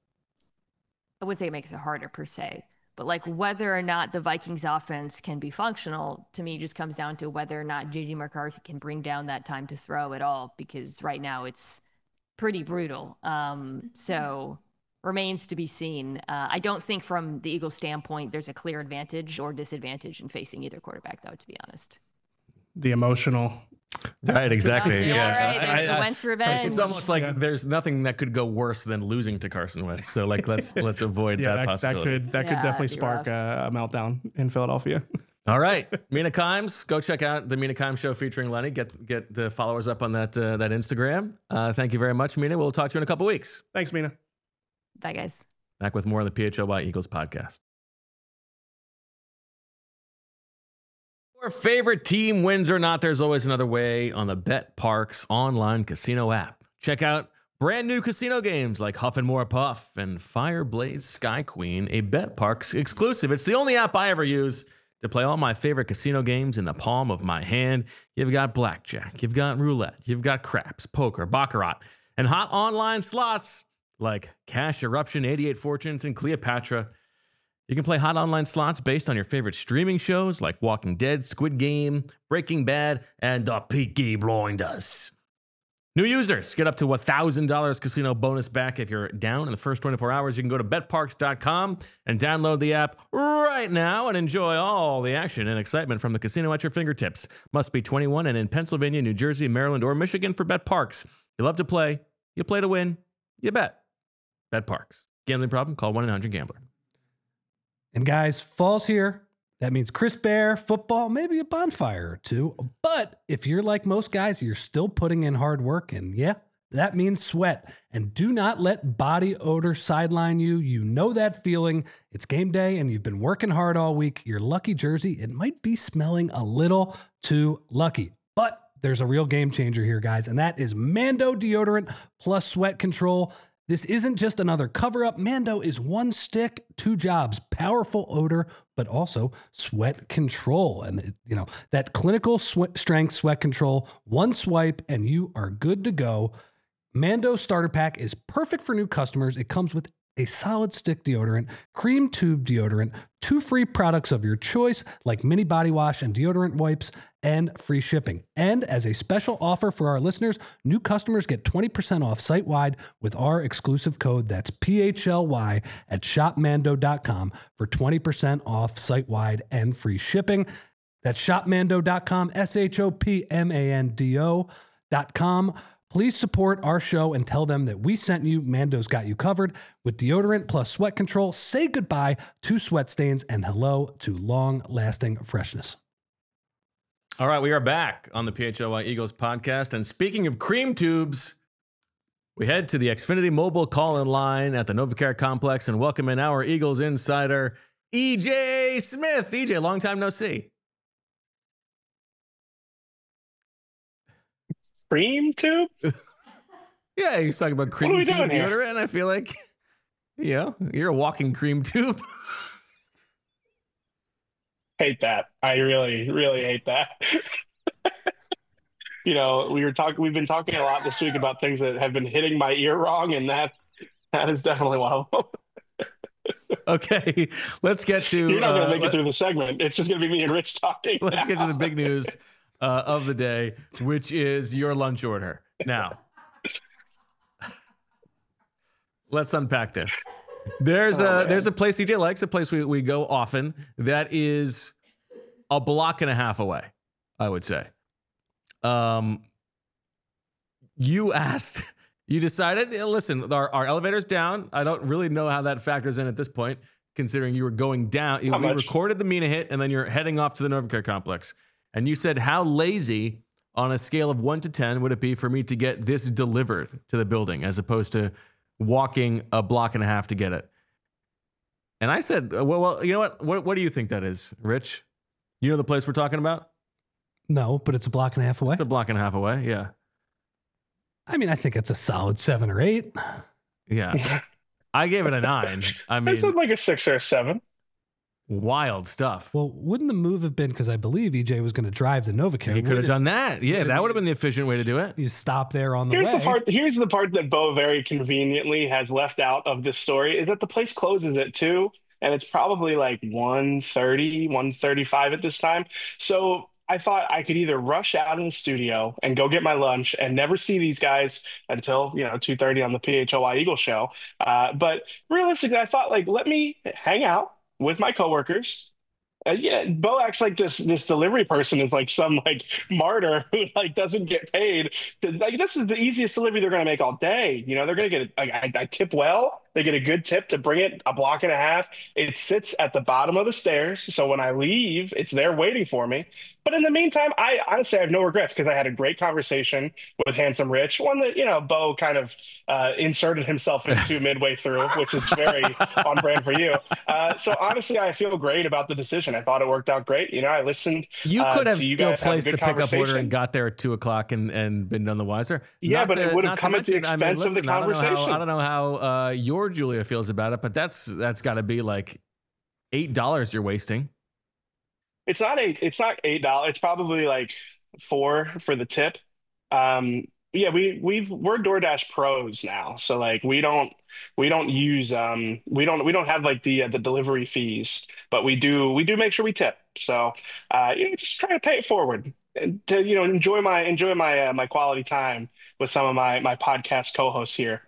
I wouldn't say it makes it harder per se, but like whether or not the Vikings offense can be functional to me just comes down to whether or not J J McCarthy can bring down that time to throw at all, because right now it's pretty brutal. Um, so remains to be seen. Uh, I don't think from the Eagles standpoint, there's a clear advantage or disadvantage in facing either quarterback though, to be honest. The emotional. Right, exactly. Yeah, yeah. right. There's the Wentz revenge. It's almost like Yeah. there's nothing that could go worse than losing to Carson Wentz. So like let's let's avoid Yeah, that, that, that possibility. could that Yeah, could definitely that'd be spark a, a meltdown in Philadelphia. All right, Mina Kimes, go check out the Mina Kimes Show featuring Lenny. Get get the followers up on that uh, that Instagram. Uh, thank you very much, Mina. We'll talk to you in a couple weeks. Thanks, Mina. Bye, guys. Back with more of the P H L Y Eagles podcast. Your favorite team wins or not, there's always another way on the Bet Parks online casino app. Check out brand new casino games like Huff and More Puff and Fireblaze Sky Queen, a Bet Parks exclusive. It's the only app I ever use to play all my favorite casino games in the palm of my hand. You've got blackjack, you've got roulette, you've got craps, poker, baccarat, and hot online slots like Cash Eruption, eighty-eight Fortunes, and Cleopatra. You can play hot online slots based on your favorite streaming shows like Walking Dead, Squid Game, Breaking Bad, and The Peaky Blinders. New users get up to one thousand dollars casino bonus back if you're down in the first twenty-four hours. You can go to bet parks dot com and download the app right now and enjoy all the action and excitement from the casino at your fingertips. Must be twenty-one and in Pennsylvania, New Jersey, Maryland, or Michigan for Bet Parks. You love to play. You play to win. You bet. Bet Parks. Gambling problem? Call one eight hundred gambler. And guys, fall's here. That means crisp air, football, maybe a bonfire or two. But if you're like most guys, you're still putting in hard work. And yeah, that means sweat. And do not let body odor sideline you. You know that feeling. It's game day and you've been working hard all week. Your lucky jersey, it might be smelling a little too lucky. But there's a real game changer here, guys. And that is Mando deodorant plus sweat control. This isn't just another cover-up. Mando is one stick, two jobs, powerful odor, but also sweat control. And, you know, that clinical sweat strength sweat control, one swipe, and you are good to go. Mando Starter Pack is perfect for new customers. It comes with a solid stick deodorant, cream tube deodorant, two free products of your choice like mini body wash and deodorant wipes, and free shipping. And as a special offer for our listeners, new customers get twenty percent off site-wide with our exclusive code. That's P H L Y at shop mando dot com for twenty percent off site-wide and free shipping. That's shop mando dot com, S H O P M A N D O dot com. Please support our show and tell them that we sent you. Mando's got you covered with deodorant plus sweat control. Say goodbye to sweat stains and hello to long-lasting freshness. All right, we are back on the P H L Y Eagles podcast. And speaking of cream tubes, we head to the Xfinity mobile call-in line at the NovaCare complex and welcome in our Eagles insider, E J Smith. E J, long time no see. Cream tube? Yeah, he's talking about cream What are we tube doing here? deodorant. I feel like, you know, you're a walking cream tube. Hate that. I really, really hate that. You know, we were talking. We've been talking a lot this week about things that have been hitting my ear wrong, and that that is definitely one of them. Okay, let's get to. You're not going uh, to make let- it through the segment. It's just going to be me and Rich talking. Let's now. get to the big news uh, of the day, which is your lunch order. Now, let's unpack this. There's Oh, a man. there's a place D J likes, a place we, we go often that is a block and a half away, I would say. Um, you asked, you decided, eh, listen, our, our elevator's down. I don't really know how that factors in at this point, considering you were going down. You, Not we much. recorded the Mina hit, and then you're heading off to the Novacare complex. And you said, how lazy on a scale of one to ten would it be for me to get this delivered to the building as opposed to walking a block and a half to get it? And I said, uh, well, well, you know what? What, what do you think that is, Rich? You know the place we're talking about? No, but it's a block and a half away. It's a block and a half away. Yeah. I mean, I think it's a solid seven or eight. Yeah. I gave it a nine. I I mean, said like a six or a seven. wild stuff. Well, wouldn't the move have been because I believe E J was going to drive the Novacare? He could have Wouldn't done that. Yeah, would've that would have been- been the efficient way to do it. You stop there on the Here's way. the part. Here's the part that Bo very conveniently has left out of this story is that the place closes at two, and it's probably like one thirty, one thirty-five at this time. So I thought I could either rush out in the studio and go get my lunch and never see these guys until, you know, two thirty on the P H L Y Eagle show. Uh, but realistically, I thought like, let me hang out with my coworkers. Uh, yeah, Bo acts like this this delivery person is like some like martyr who like doesn't get paid. Like this is the easiest delivery they're going to make all day. You know, they're going to get. Like, I, I tip well. They get a good tip to bring it a block and a half. It sits at the bottom of the stairs, so when I leave, it's there waiting for me. But in the meantime, I honestly I have no regrets because I had a great conversation with Handsome Rich, one that you know Bo kind of uh, inserted himself into midway through, which is very on brand for you. Uh, so honestly, I feel great about the decision. I thought it worked out great. You know, I listened. You uh, could have to you still guys, had a placed good the pickup order conversation. and got there at two o'clock and, and been none the wiser. Yeah, Not but it to- would have not to come at the mention- I mean, expense of the listen, I don't know how- conversation. I don't know how uh, your Julia feels about it, but that's that's got to be like eight dollars you're wasting. It's not eight. It's not eight dollars. It's probably like four for the tip. Um, yeah, we we've we're DoorDash pros now, so like we don't we don't use um we don't we don't have like the uh, the delivery fees, but we do we do make sure we tip. So uh, you know, just try to pay it forward and to you know enjoy my enjoy my uh, my quality time with some of my my podcast co-hosts here.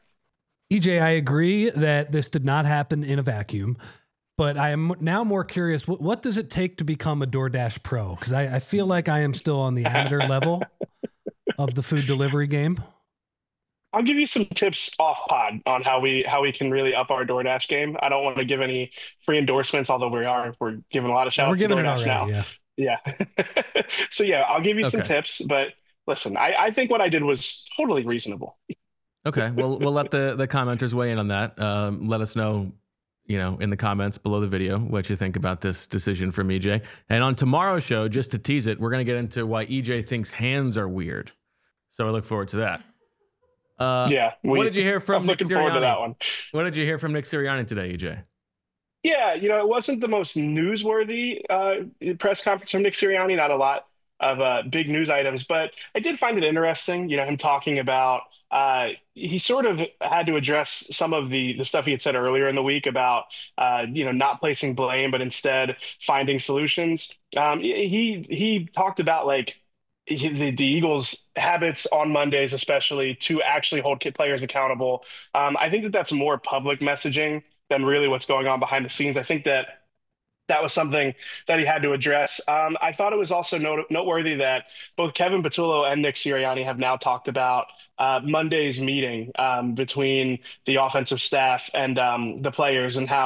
E J, I agree that this did not happen in a vacuum, but I am now more curious. What, what does it take to become a DoorDash pro? Because I, I feel like I am still on the amateur level of the food delivery game. I'll give you some tips off pod on how we how we can really up our DoorDash game. I don't want to give any free endorsements, although we are we're giving a lot of shout We're outs to giving it DoorDash already. now. Yeah. Yeah. So yeah, I'll give you some Okay. tips, but listen, I, I think what I did was totally reasonable. Okay, well, we'll let the, the commenters weigh in on that. Um, let us know, you know, in the comments below the video what you think about this decision from E J. And on tomorrow's show, just to tease it, we're going to get into why E J thinks hands are weird. So I look forward to that. Uh, Yeah. We, what did you hear from I'm Nick looking forward to Sirianni? that one. What did you hear from Nick Sirianni today, E J? Yeah, you know, it wasn't the most newsworthy uh, press conference from Nick Sirianni. Not a lot of uh, big news items, but I did find it interesting. You know, him talking about uh, he sort of had to address some of the the stuff he had said earlier in the week about uh, you know not placing blame, but instead finding solutions. Um, he he talked about like. he- The, the Eagles' habits on Mondays, especially to actually hold kid players accountable. Um, I think that that's more public messaging than really what's going on behind the scenes. I think that that was something that he had to address. Um, I thought it was also note- noteworthy that both Kevin Patullo and Nick Sirianni have now talked about uh, Monday's meeting um, between the offensive staff and um, the players and how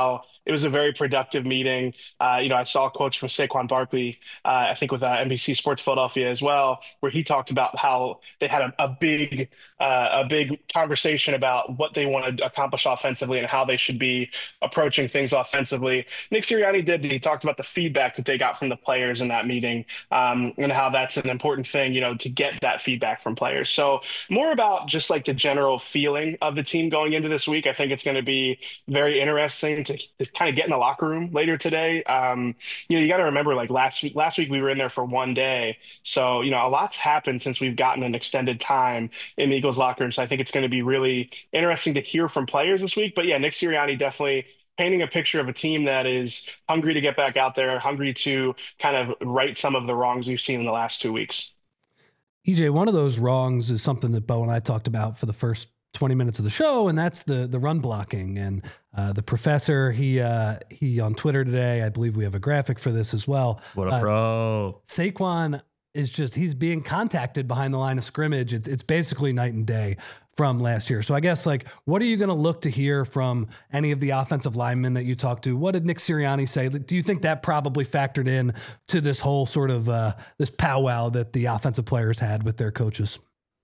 it was a very productive meeting. Uh, you know, I saw quotes from Saquon Barkley, uh, I think with uh, N B C Sports Philadelphia as well, where he talked about how they had a, a big, uh, a big conversation about what they want to accomplish offensively and how they should be approaching things offensively. Nick Sirianni did. He talked about the feedback that they got from the players in that meeting, um, and how that's an important thing, you know, to get that feedback from players. So more about just like the general feeling of the team going into this week. I think it's going to be very interesting to, to kind of get in the locker room later today. Um, you know, you got to remember, like last week, last week we were in there for one day. So, you know, a lot's happened since we've gotten an extended time in the Eagles locker room. So I think it's going to be really interesting to hear from players this week. But yeah, Nick Sirianni definitely painting a picture of a team that is hungry to get back out there, hungry to kind of right some of the wrongs we've seen in the last two weeks. E J, one of those wrongs is something that Bo and I talked about for the first twenty minutes of the show, and that's the the run blocking. And uh, the professor, he uh, he on Twitter today, I believe we have a graphic for this as well. What a uh, pro. Saquon is just, he's being contacted behind the line of scrimmage. It's it's basically night and day from last year. So I guess, like, what are you going to look to hear from any of the offensive linemen that you talked to? What did Nick Sirianni say? Do you think that probably factored in to this whole sort of uh, this powwow that the offensive players had with their coaches?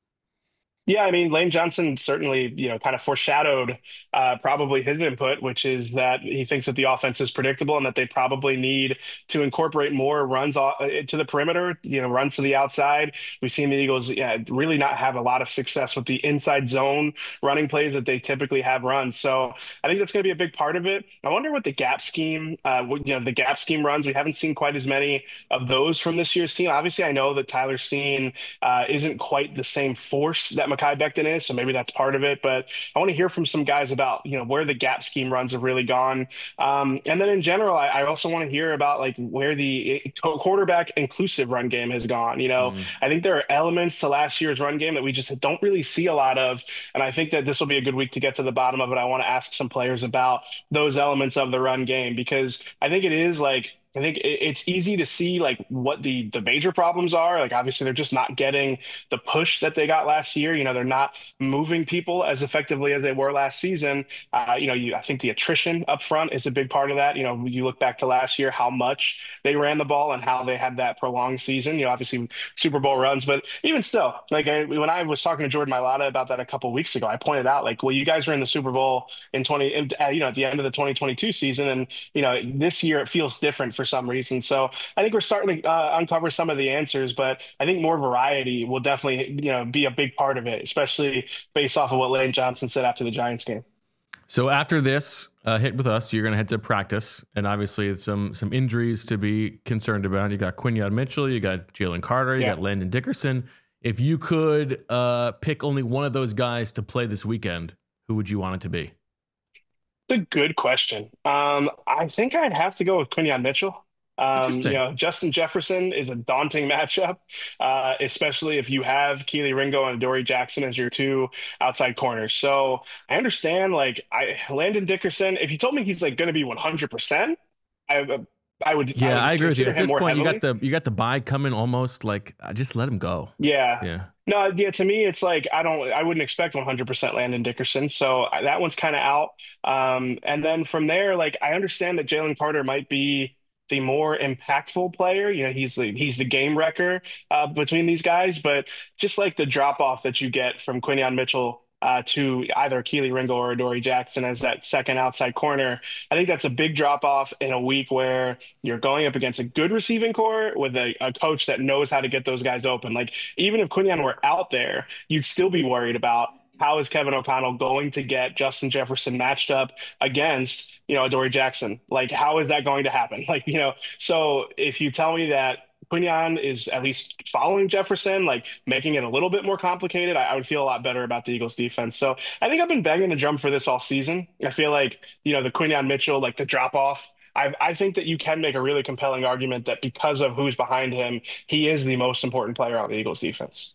Yeah, I mean, Lane Johnson certainly, you know, kind of foreshadowed uh, probably his input, which is that he thinks that the offense is predictable and that they probably need to incorporate more runs to the perimeter, you know, runs to the outside. We've seen the Eagles yeah, really not have a lot of success with the inside zone running plays that they typically have run. So I think that's going to be a big part of it. I wonder what the gap scheme, uh, you know, the gap scheme runs. We haven't seen quite as many of those from this year's team. Obviously, I know that Tyler Steen uh, isn't quite the same force that Mekhi Becton is, so maybe that's part of it. But I want to hear from some guys about, you know, where the gap scheme runs have really gone. Um, and then in general, I, I also want to hear about like where the quarterback inclusive run game has gone. You know, mm. I think there are elements to last year's run game that we just don't really see a lot of. And I think that this will be a good week to get to the bottom of it. I want to ask some players about those elements of the run game, because I think it is like, I think it's easy to see like what the the major problems are. Like obviously they're just not getting the push that they got last year. You know, they're not moving people as effectively as they were last season. Uh, you know, you, I think the attrition up front is a big part of that. You know, you look back to last year, how much they ran the ball and how they had that prolonged season. You know, obviously Super Bowl runs, but even still, like I, when I was talking to Jordan Mailata about that a couple of weeks ago, I pointed out like, well, you guys were in the Super Bowl in twenty, in, uh, you know, at the end of the twenty twenty-two season, and you know, this year it feels different for some reason. So I think we're starting to uh, uncover some of the answers, but I think more variety will definitely, you know, be a big part of it, especially based off of what Lane Johnson said after the Giants game. So after this uh, hit with us, you're going to head to practice, and obviously some some injuries to be concerned about. You got Quinyon Mitchell, you got Jalen Carter, you yeah. got Landon Dickerson. If you could uh, pick only one of those guys to play this weekend, who would you want it to be? It's a good question. Um, I think I'd have to go with Quinyon Mitchell. Um, you know, Justin Jefferson is a daunting matchup, uh, especially if you have Kelee Ringo and Adoree Jackson as your two outside corners. So I understand, like, I Landon Dickerson, if you told me he's like going to be one hundred percent, I, I would. Yeah, I, would I agree with you. At this point, heavily. you got the you got the bye coming almost. Like, just let him go. Yeah. Yeah. No, yeah. To me, it's like I don't. I wouldn't expect one hundred percent Landon Dickerson, so that one's kind of out. Um, and then from there, like, I understand that Jalen Carter might be the more impactful player. You know, he's the he's the game wrecker uh, between these guys, but just like the drop off that you get from Quinyon Mitchell uh, to either Kelee Ringo or Adoree Jackson as that second outside corner, I think that's a big drop off in a week where you're going up against a good receiving core with a, a coach that knows how to get those guys open. Like, even if Quinyon were out there, you'd still be worried about how is Kevin O'Connell going to get Justin Jefferson matched up against, you know, Adoree Jackson? Like, how is that going to happen? Like, you know, so if you tell me that Quinyon is at least following Jefferson, like making it a little bit more complicated, I, I would feel a lot better about the Eagles defense. So I think I've been begging to jump for this all season. I feel like, you know, the Quinyon Mitchell, like the drop off, I, I think that you can make a really compelling argument that because of who's behind him, he is the most important player on the Eagles defense.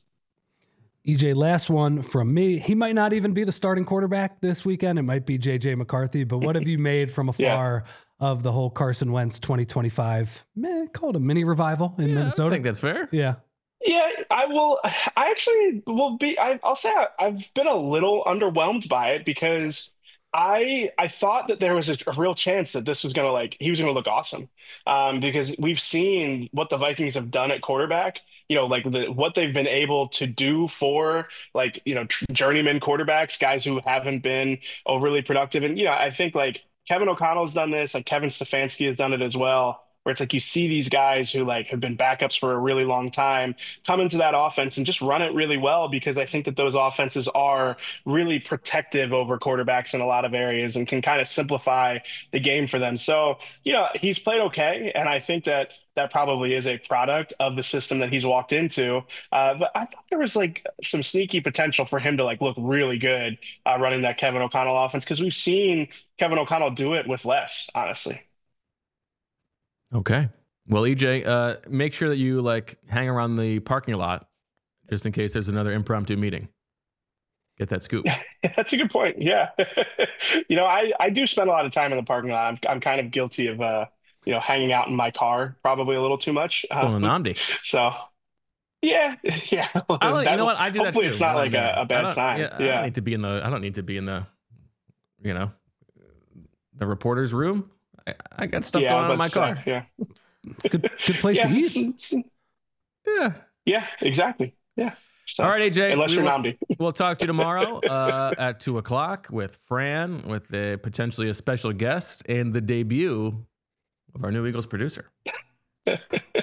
E J, last one from me. He might not even be the starting quarterback this weekend. It might be J J McCarthy, but what have you made from afar yeah. of the whole Carson Wentz twenty twenty-five, man, called a mini revival in yeah, Minnesota? I think that's fair. Yeah. Yeah, I will. I actually will be, I, I'll say I, I've been a little underwhelmed by it because I I thought that there was a, a real chance that this was gonna like he was gonna look awesome, um, because we've seen what the Vikings have done at quarterback. You know, like the what they've been able to do for like you know tr- journeyman quarterbacks, guys who haven't been overly productive. And you know, I think like Kevin O'Connell's done this, like Kevin Stefanski has done it as well. Where it's like you see these guys who like have been backups for a really long time come into that offense and just run it really well because I think that those offenses are really protective over quarterbacks in a lot of areas and can kind of simplify the game for them. So, you know, he's played okay. And I think that that probably is a product of the system that he's walked into. Uh, but I thought there was like some sneaky potential for him to like look really good uh, running that Kevin O'Connell offense because we've seen Kevin O'Connell do it with less, honestly. Okay. Well, E J, uh, make sure that you like hang around the parking lot just in case there's another impromptu meeting. Get that scoop. That's a good point. Yeah. you know, I, I do spend a lot of time in the parking lot. I'm, I'm kind of guilty of, uh, you know, hanging out in my car probably a little too much. Well, Um, Namdi. so, yeah. Yeah. I like, That- you know what? I do that hopefully too. it's not when like I'm there. a, a I bad don't- sign. Yeah, Yeah. I don't need to be in the. I don't need to be in the. You know, the reporter's room. I, I got stuff Yeah, going on in but my so, car. yeah. Good, good place Yeah. to it's- eat. it's- Yeah. yeah, exactly. Yeah. So, All right, A J. unless we you're will- Namdi. We'll talk to you tomorrow uh, at two o'clock with Fran, with a, potentially a special guest, and the debut of our new Eagles producer. All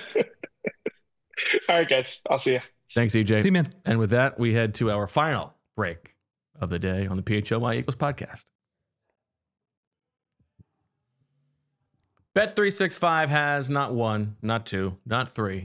right, guys. I'll see you. Thanks, E J. See you, man. And with that, we head to our final break of the day on the P H L Y Eagles podcast. Bet three sixty-five has not one, not two, not three.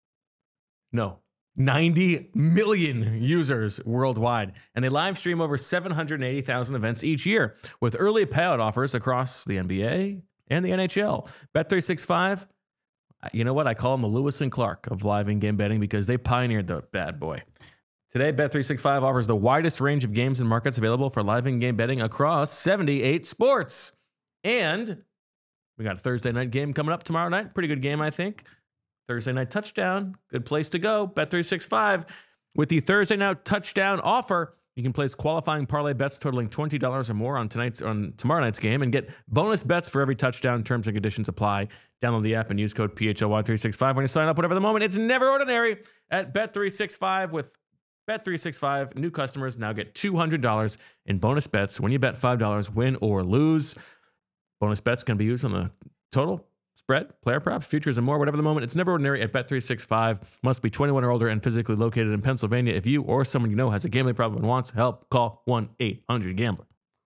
No, ninety million users worldwide. And they live stream over seven hundred eighty thousand events each year with early payout offers across the N B A and the N H L. Bet three sixty-five, you know what? I call them the Lewis and Clark of live in-game betting because they pioneered the bad boy. Today, Bet three sixty-five offers the widest range of games and markets available for live in-game betting across seventy-eight sports. And we got a Thursday night game coming up tomorrow night. Pretty good game, I think. Thursday night touchdown. Good place to go. Bet three sixty-five. With the Thursday night touchdown offer, you can place qualifying parlay bets totaling twenty dollars or more on tonight's on tomorrow night's game and get bonus bets for every touchdown. Terms and conditions apply. Download the app and use code P H L Y three sixty-five when you sign up. Whatever the moment, it's never ordinary at Bet three sixty-five. With Bet three sixty-five, new customers now get two hundred dollars in bonus bets when you bet five dollars, win or lose. Bonus bets can be used on the total, spread, player props, futures, and more. Whatever the moment, it's never ordinary at Bet three sixty-five. Must be twenty-one or older and physically located in Pennsylvania. If you or someone you know has a gambling problem and wants help, call one eight hundred gambler.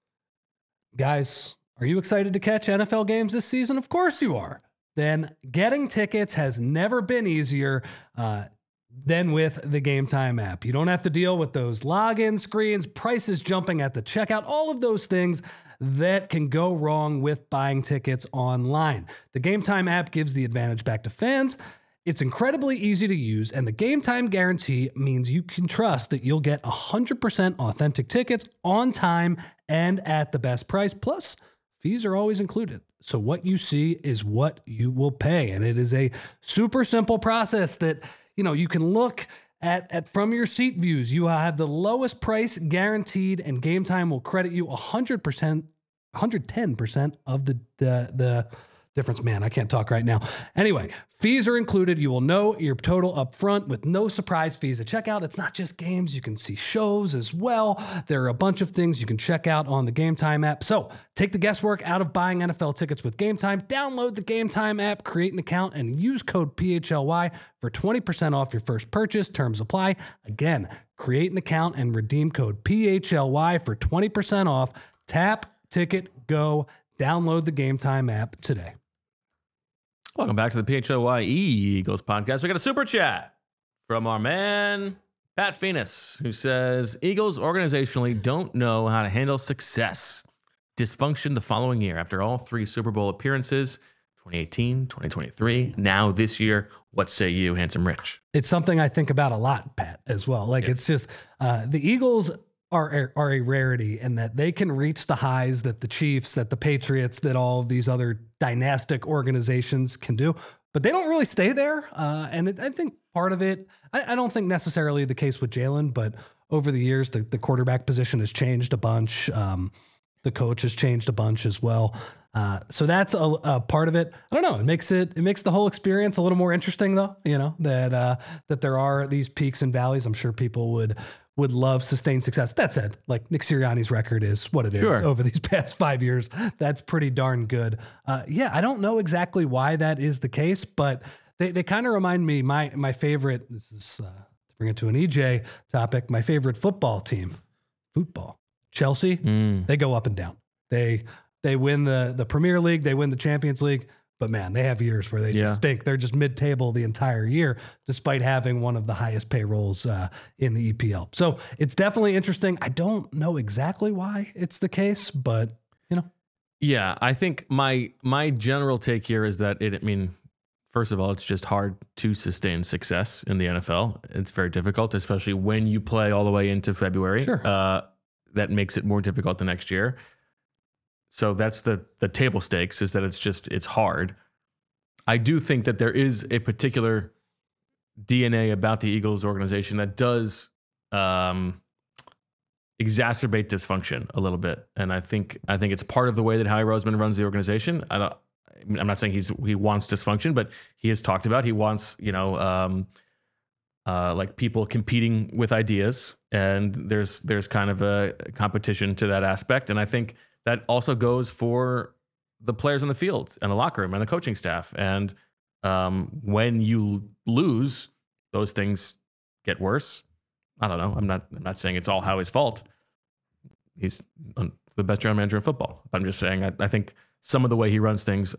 Guys, are you excited to catch N F L games this season? Of course you are. Then getting tickets has never been easier uh, than with the Game Time app. You don't have to deal with those login screens, prices jumping at the checkout, all of those things that can go wrong with buying tickets online. The Game Time app gives the advantage back to fans. It's incredibly easy to use, and the Game Time guarantee means you can trust that you'll get one hundred percent authentic tickets on time and at the best price. Plus, fees are always included. So what you see is what you will pay. And it is a super simple process that, you know, you can look at, at from your seat views. You have the lowest price guaranteed, and Game Time will credit you one hundred percent, one hundred ten percent of the, the, the difference. Man, I can't talk right now. Anyway, fees are included. You will know your total up front with no surprise fees at checkout. It's not just games. You can see shows as well. There are a bunch of things you can check out on the Game Time app. So take the guesswork out of buying N F L tickets with Game Time. Download the Game Time app, create an account, and use code P H L Y for twenty percent off your first purchase. Terms apply. Again, create an account and redeem code P H L Y for twenty percent off. Tap, ticket, go. Download the Game Time app today. Welcome back to the P H L Y Eagles podcast. We got a super chat from our man, Pat Phoenix, who says, Eagles organizationally don't know how to handle success. Dysfunction the following year after all three Super Bowl appearances, twenty eighteen, twenty twenty-three, now this year. What say you, Handsome Rich? It's something I think about a lot, Pat, as well. Like Yeah. it's just uh, the Eagles are are a rarity in that they can reach the highs that the Chiefs, that the Patriots, that all of these other dynastic organizations can do, but they don't really stay there. Uh, and it, I think part of it, I, I don't think necessarily the case with Jalen, but over the years, the, the quarterback position has changed a bunch. Um, The coach has changed a bunch as well. Uh, so that's a, a part of it. I don't know. It makes it it makes the whole experience a little more interesting, though. You know that uh, that there are these peaks and valleys. I'm sure people would would love sustained success. That said, like Nick Sirianni's record is what it is Sure. over these past five years. That's pretty darn good. Uh, yeah, I don't know exactly why that is the case, but they they kind of remind me my my favorite. This is uh, to bring it to an E J topic. My favorite football team, football, Chelsea. Mm. They go up and down. They They win the, the Premier League, they win the Champions League, but man, they have years where they Yeah. just stink. They're just mid-table the entire year, despite having one of the highest payrolls uh, in the E P L. So it's definitely interesting. I don't know exactly why it's the case, but you know, Yeah, I think my my general take here is that it. I mean, first of all, it's just hard to sustain success in the N F L. It's very difficult, especially when you play all the way into February. Sure. Uh, that makes it more difficult the next year. So that's the the table stakes, is that it's just it's hard. I do think that there is a particular D N A about the Eagles organization that does um, exacerbate dysfunction a little bit, and I think I think it's part of the way that Howie Roseman runs the organization. I don't. I'm not saying he's he wants dysfunction, but he has talked about he wants you know um, uh, like people competing with ideas, and there's there's kind of a competition to that aspect, and I think that also goes for the players on the field and the locker room and the coaching staff. And um, when you lose, those things get worse. I don't know. I'm not. I'm not saying it's all Howie's fault. He's the best general manager in football. I'm just saying I, I think some of the way he runs things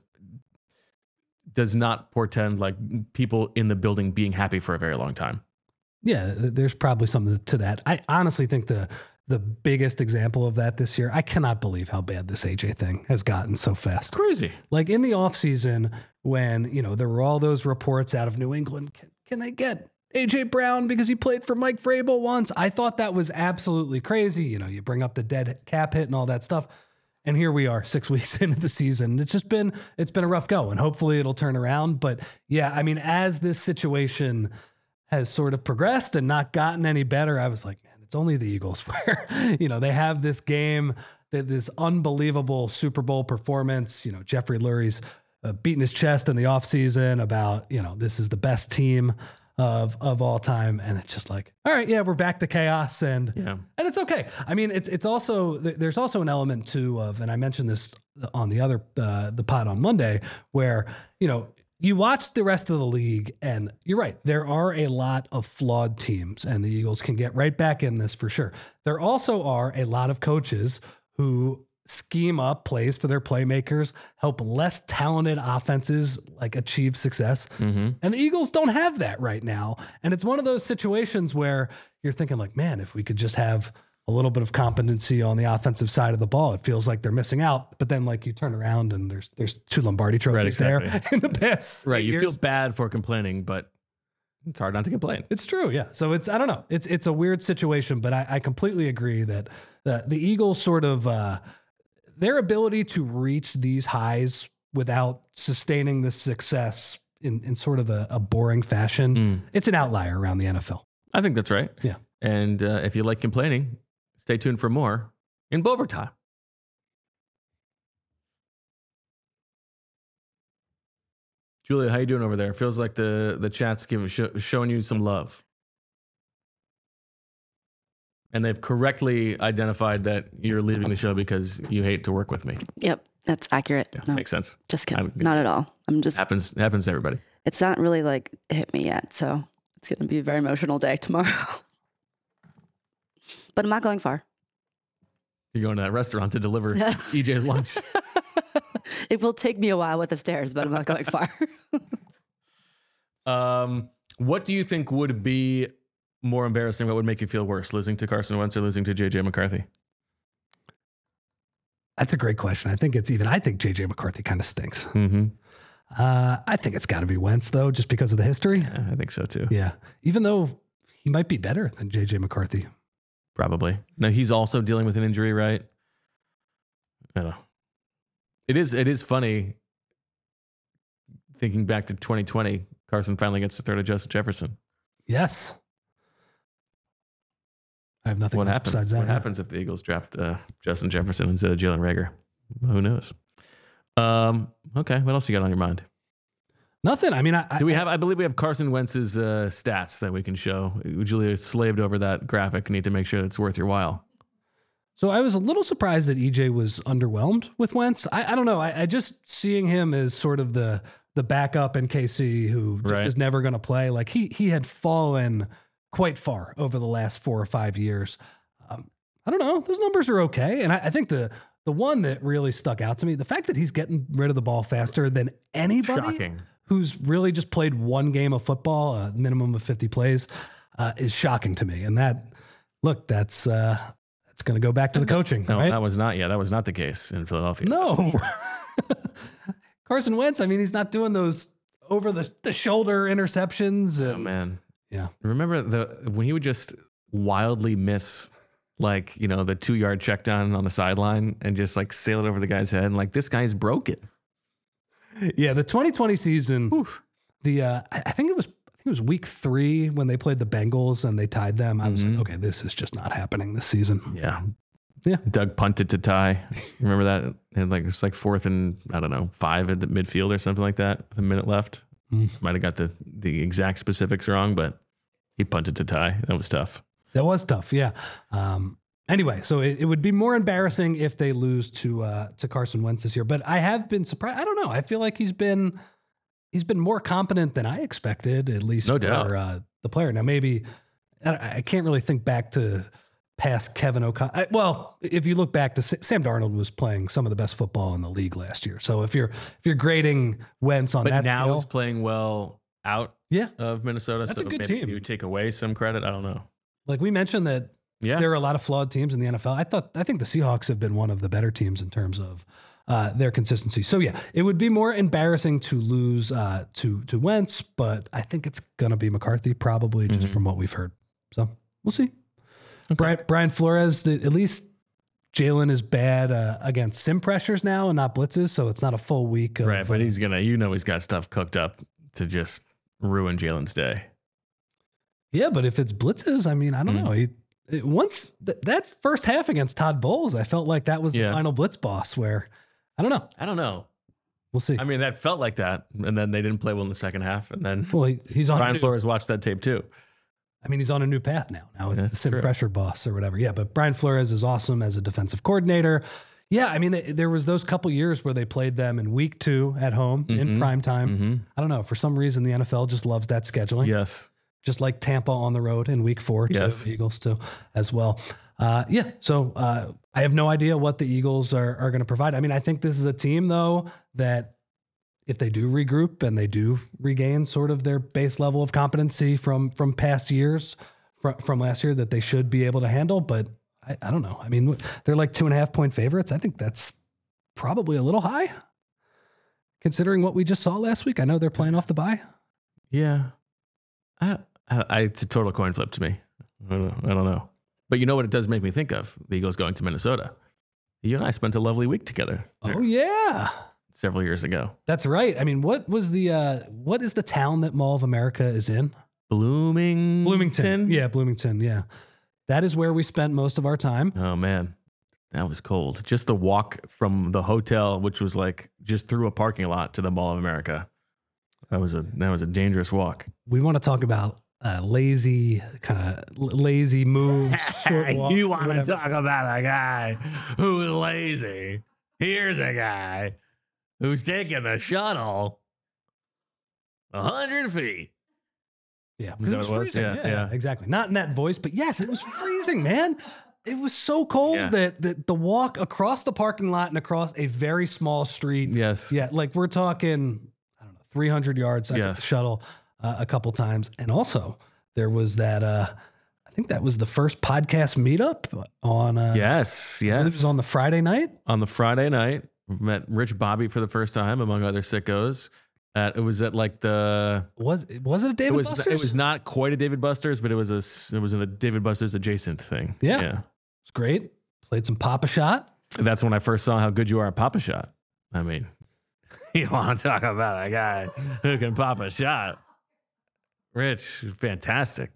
does not portend like people in the building being happy for a very long time. yeah, there's probably something to that. I honestly think the the biggest example of that this year, I cannot believe how bad this A J thing has gotten so fast. Crazy. Like in the offseason, when, you know, there were all those reports out of New England, can, can they get A J Brown because he played for Mike Vrabel once? I thought that was absolutely crazy. You know, you bring up the dead cap hit and all that stuff. And here we are six weeks into the season. It's just been, it's been a rough go, and hopefully it'll turn around. But yeah, I mean, as this situation has sort of progressed and not gotten any better, I was like, man, it's only the Eagles where, you know, they have this game, this unbelievable Super Bowl performance. You know, Jeffrey Lurie's uh, beating his chest in the offseason about, you know, this is the best team of of all time. And it's just like, all right, yeah, we're back to chaos, and Yeah. and it's okay. I mean, it's it's also, there's also an element too of, and I mentioned this on the other uh, the pod on Monday, where, you know, you watch the rest of the league, and you're right, there are a lot of flawed teams, and the Eagles can get right back in this for sure. There also are a lot of coaches who scheme up plays for their playmakers, help less talented offenses like achieve success. Mm-hmm. And the Eagles don't have that right now. And it's one of those situations where you're thinking like, man, if we could just have a little bit of competency on the offensive side of the ball, it feels like they're missing out. But then like you turn around and there's there's two Lombardi trophies Right, exactly. there in the past. Right. You years. feel bad for complaining, but it's hard not to complain. It's true, yeah. So it's, I don't know, it's it's a weird situation, but I, I completely agree that the the Eagles sort of uh, their ability to reach these highs without sustaining the success in, in sort of a, a boring fashion, Mm. it's an outlier around the N F L. I think that's right. Yeah. And uh, if you like complaining, stay tuned for more in Bovertime. Julia, how you doing over there? Feels like the the chat's giving sh- showing you some love, and they've correctly identified that you're leaving the show because you hate to work with me. Yep, that's accurate. Yeah, No, makes sense. just kidding. I- Not at all. I'm just, Happens happens to everybody. it's not really like hit me yet. So it's going to be a very emotional day tomorrow. But I'm not going far. You're going to that restaurant to deliver E J's lunch. It will take me a while with the stairs, but I'm not going far. Um, what do you think would be more embarrassing? What would make you feel worse, losing to Carson Wentz or losing to J J McCarthy? That's a great question. I think it's even, I think J J McCarthy kind of stinks. Mm-hmm. Uh, I think it's got to be Wentz though, just because of the history. Yeah, I think so too. Yeah. Even though he might be better than J J McCarthy. Probably. Now he's also dealing with an injury, right? I don't know. It is. It is funny thinking back to twenty twenty. Carson finally gets to throw to Justin Jefferson. Yes. I have nothing What else happens? besides that. What happens if the Eagles draft uh, Justin Jefferson instead of Jalen Reagor? Who knows? Um, okay, what else you got on your mind? Nothing. I mean, I, Do we I, have? I believe we have Carson Wentz's uh, stats that we can show. Julia slaved over that graphic. Need to make sure it's worth your while. So I was a little surprised that E J was underwhelmed with Wentz. I, I don't know. I, I just seeing him as sort of the the backup in K C who just Right. is never going to play. Like he he had fallen quite far over the last four or five years. Um, I don't know. Those numbers are okay, and I, I think the the one that really stuck out to me, the fact that he's getting rid of the ball faster than anybody Shocking. who's really just played one game of football, a minimum of fifty plays, uh, is shocking to me. And that look, that's. Uh, It's going to go back to the coaching, No, right? that was not. Yeah, that was not the case in Philadelphia. No. Carson Wentz, I mean, he's not doing those over the, the shoulder interceptions. Oh And, man. Yeah. Remember the when he would just wildly miss, like you know, the two yard check down on the sideline and just like sail it over the guy's head, and like this guy's broken. yeah. The twenty twenty season, the uh, I I think it was I think it was week three when they played the Bengals and they tied them. I was Mhm. like, okay, this is just not happening this season. Yeah. Yeah. Doug punted to tie. Remember that? And like it's like fourth and I don't know, five at the midfield or something like that. A minute left. Mm. Might have got the the exact specifics wrong, but he punted to tie. That was tough. That was tough. Yeah. Um, anyway, so it, it would be more embarrassing if they lose to uh, to Carson Wentz this year. But I have been surprised. I don't know. I feel like he's been he's been more competent than I expected, at least No for doubt. Uh, the player. Now, maybe I, I can't really think back to past Kevin O'Connell. Well, if you look back to Sa- Sam Darnold was playing some of the best football in the league last year. So if you're if you're grading Wentz on But that now scale, he's playing well out yeah, of Minnesota. That's so a good maybe team. you take away some credit. I don't know. like we mentioned that Yeah. there are a lot of flawed teams in the N F L. I thought I think the Seahawks have been one of the better teams in terms of uh, their consistency. So yeah, it would be more embarrassing to lose uh, to to Wentz, but I think it's gonna be McCarthy probably just Mhm. from what we've heard. So we'll see. Brian, Brian Flores, the, at least Jalen is bad uh, against sim pressures now and not blitzes, so it's not a full week. Of, Right, but uh, he's gonna, you know, he's got stuff cooked up to just ruin Jalen's day. yeah, but if it's blitzes, I mean, I don't Mm. know. He it, once th- that first half against Todd Bowles, I felt like that was Yeah. the final blitz boss. Where I don't know. I don't know. We'll see. I mean, that felt like that, and then they didn't play well in the second half, and then Well, he, he's on. a Brian new- Flores watched that tape too. I mean, he's on a new path now. Now with That's the sim true. pressure boss or whatever. Yeah, but Brian Flores is awesome as a defensive coordinator. Yeah, I mean, they, there was those couple years where they played them in week two at home in Mhm. prime time. Mm-hmm. I don't know. For some reason, the N F L just loves that scheduling. Yes. Just like Tampa on the road in week four to Yes. the Eagles too, as well. Uh, yeah. So uh, I have no idea what the Eagles are, are going to provide. I mean, I think this is a team though that if they do regroup and they do regain sort of their base level of competency from from past years from, from last year, that they should be able to handle. But I, I don't know. I mean, they're like two and a half point favorites. I think that's probably a little high considering what we just saw last week. I know they're playing off the bye. Yeah. I, I, I, it's a total coin flip to me. I don't, know, I don't know. But you know what it does make me think of? The Eagles going to Minnesota. You and I spent a lovely week together there Oh yeah. several years ago. That's right. I mean, what was the uh what is the town that Mall of America is in? Bloomington. Bloomington. Yeah, Bloomington. Yeah. That is where we spent most of our time. Oh man, that was cold. Just the walk from the hotel, which was like just through a parking lot to the Mall of America. That was a that was a dangerous walk. We want to talk about uh, lazy kind of lazy moves. short walks, You want to whatever. talk about a guy who is lazy? Here's a guy who's taking the shuttle a hundred feet. Yeah, Is because that it was what it was? freezing. Yeah, Yeah, yeah. exactly. Not in that voice, but yes, it was freezing, man. It was so cold Yeah. that, that the walk across the parking lot and across a very small street. Yes. Yeah, like we're talking, I don't know, three hundred yards. I took Yes. the shuttle uh, a couple times. And also, there was that, uh, I think that was the first podcast meetup on, uh, Yes. I believe it Yes. was on the Friday night. on the Friday night, met Rich Bobby for the first time, among other sickos. At, it was at like the. Was, was it a David It was. Buster's? It was not quite a David Buster's, but it was a. s- It was a David Buster's adjacent thing. Yeah. Yeah. It's great. Played some Papa Shot. That's when I first saw how good you are at Papa Shot. I mean, you want to talk about a guy who can pop a shot? Rich, fantastic.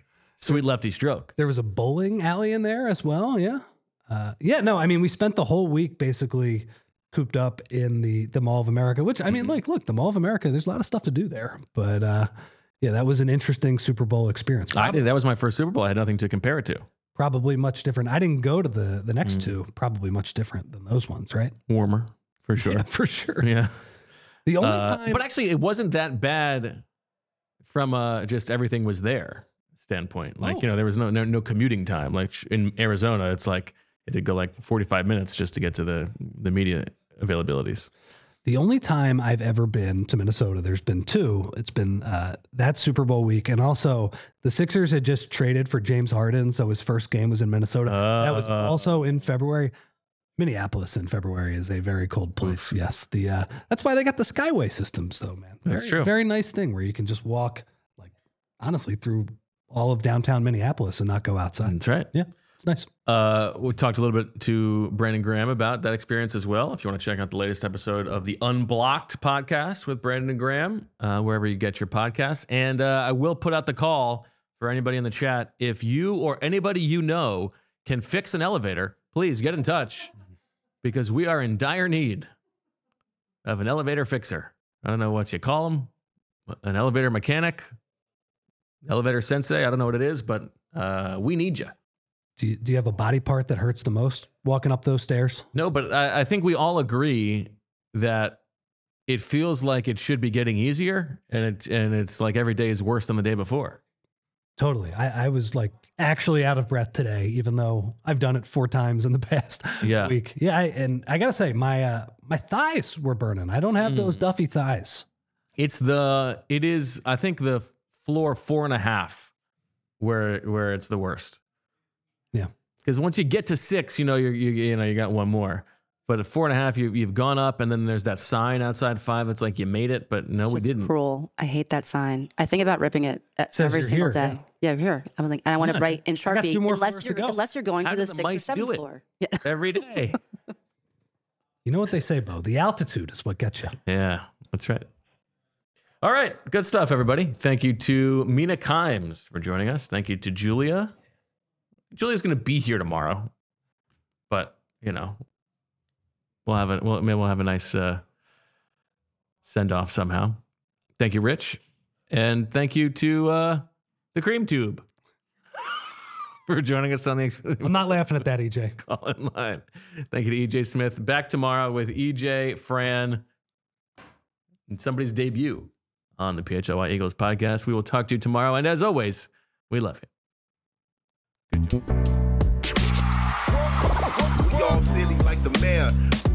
Sweet lefty stroke. There was a bowling alley in there as well. Yeah. Uh, yeah. No, I mean, we spent the whole week basically cooped up in the, the Mall of America, which I mean, like, look, the Mall of America, there's a lot of stuff to do there. But uh, yeah, that was an interesting Super Bowl experience. I did. That was my first Super Bowl. I had nothing to compare it to. Probably much different. I didn't go to the, the next mm. two, probably much different than those ones, right? Warmer, for sure. Yeah, for sure. Yeah. The only uh, time. But actually, it wasn't that bad from uh, just everything was there standpoint. Like, oh. you know, there was no, no no commuting time. Like in Arizona, it's like it did go like forty-five minutes just to get to the, the media availabilities. The only time I've ever been to Minnesota, there's been two. It's been uh, that Super Bowl week. And also the Sixers had just traded for James Harden. So his first game was in Minnesota. Uh, that was also in February. Minneapolis in February is a very cold place. Oof. Yes. The uh, that's why they got the Skyway systems though, man. Very, that's true. Very nice thing where you can just walk like honestly through all of downtown Minneapolis and not go outside. That's right. Yeah. It's nice. Uh, we talked a little bit to Brandon Graham about that experience as well. If you want to check out the latest episode of the Unblocked podcast with Brandon Graham, uh, wherever you get your podcasts. And uh, I will put out the call for anybody in the chat. If you or anybody you know can fix an elevator, please get in touch because we are in dire need of an elevator fixer. I don't know what you call them, an elevator mechanic, elevator sensei. I don't know what it is, but uh, we need you. Do you, do you have a body part that hurts the most walking up those stairs? No, but I, I think we all agree that it feels like it should be getting easier, and it and it's like every day is worse than the day before. Totally. I, I was like actually out of breath today, even though I've done it four times in the past yeah. week. Yeah, I, and I gotta say, my uh, my thighs were burning. I don't have mm. those Duffy thighs. It's the it is I think the floor four and a half where where it's the worst. Yeah, because once you get to six, you know you're you, you know you got one more. But at four and a half, you you've gone up, and then there's that sign outside five. It's like you made it, but no, it's we just didn't. Cruel. I hate that sign. I think about ripping it it every single here, day. Yeah, yeah here. I'm like, and I want yeah, to write in Sharpie unless you're go. unless you're going How to the, the sixth or seventh do floor. Yeah. Every day. You know what they say, Bo? The altitude is what gets you. Yeah, that's right. All right, good stuff, everybody. Thank you to Mina Kimes for joining us. Thank you to Julia. Julia's going to be here tomorrow, but you know, we'll have a well, maybe we'll have a nice uh, send off somehow. Thank you, Rich, and thank you to uh, the Cream Tube for joining us on the. I'm not laughing at that, E J. Call in line. Thank you to E J Smith. Back tomorrow with E J, Fran, and somebody's debut on the P H L Y Eagles podcast. We will talk to you tomorrow, and as always, we love you. Good job. We all silly like the mayor.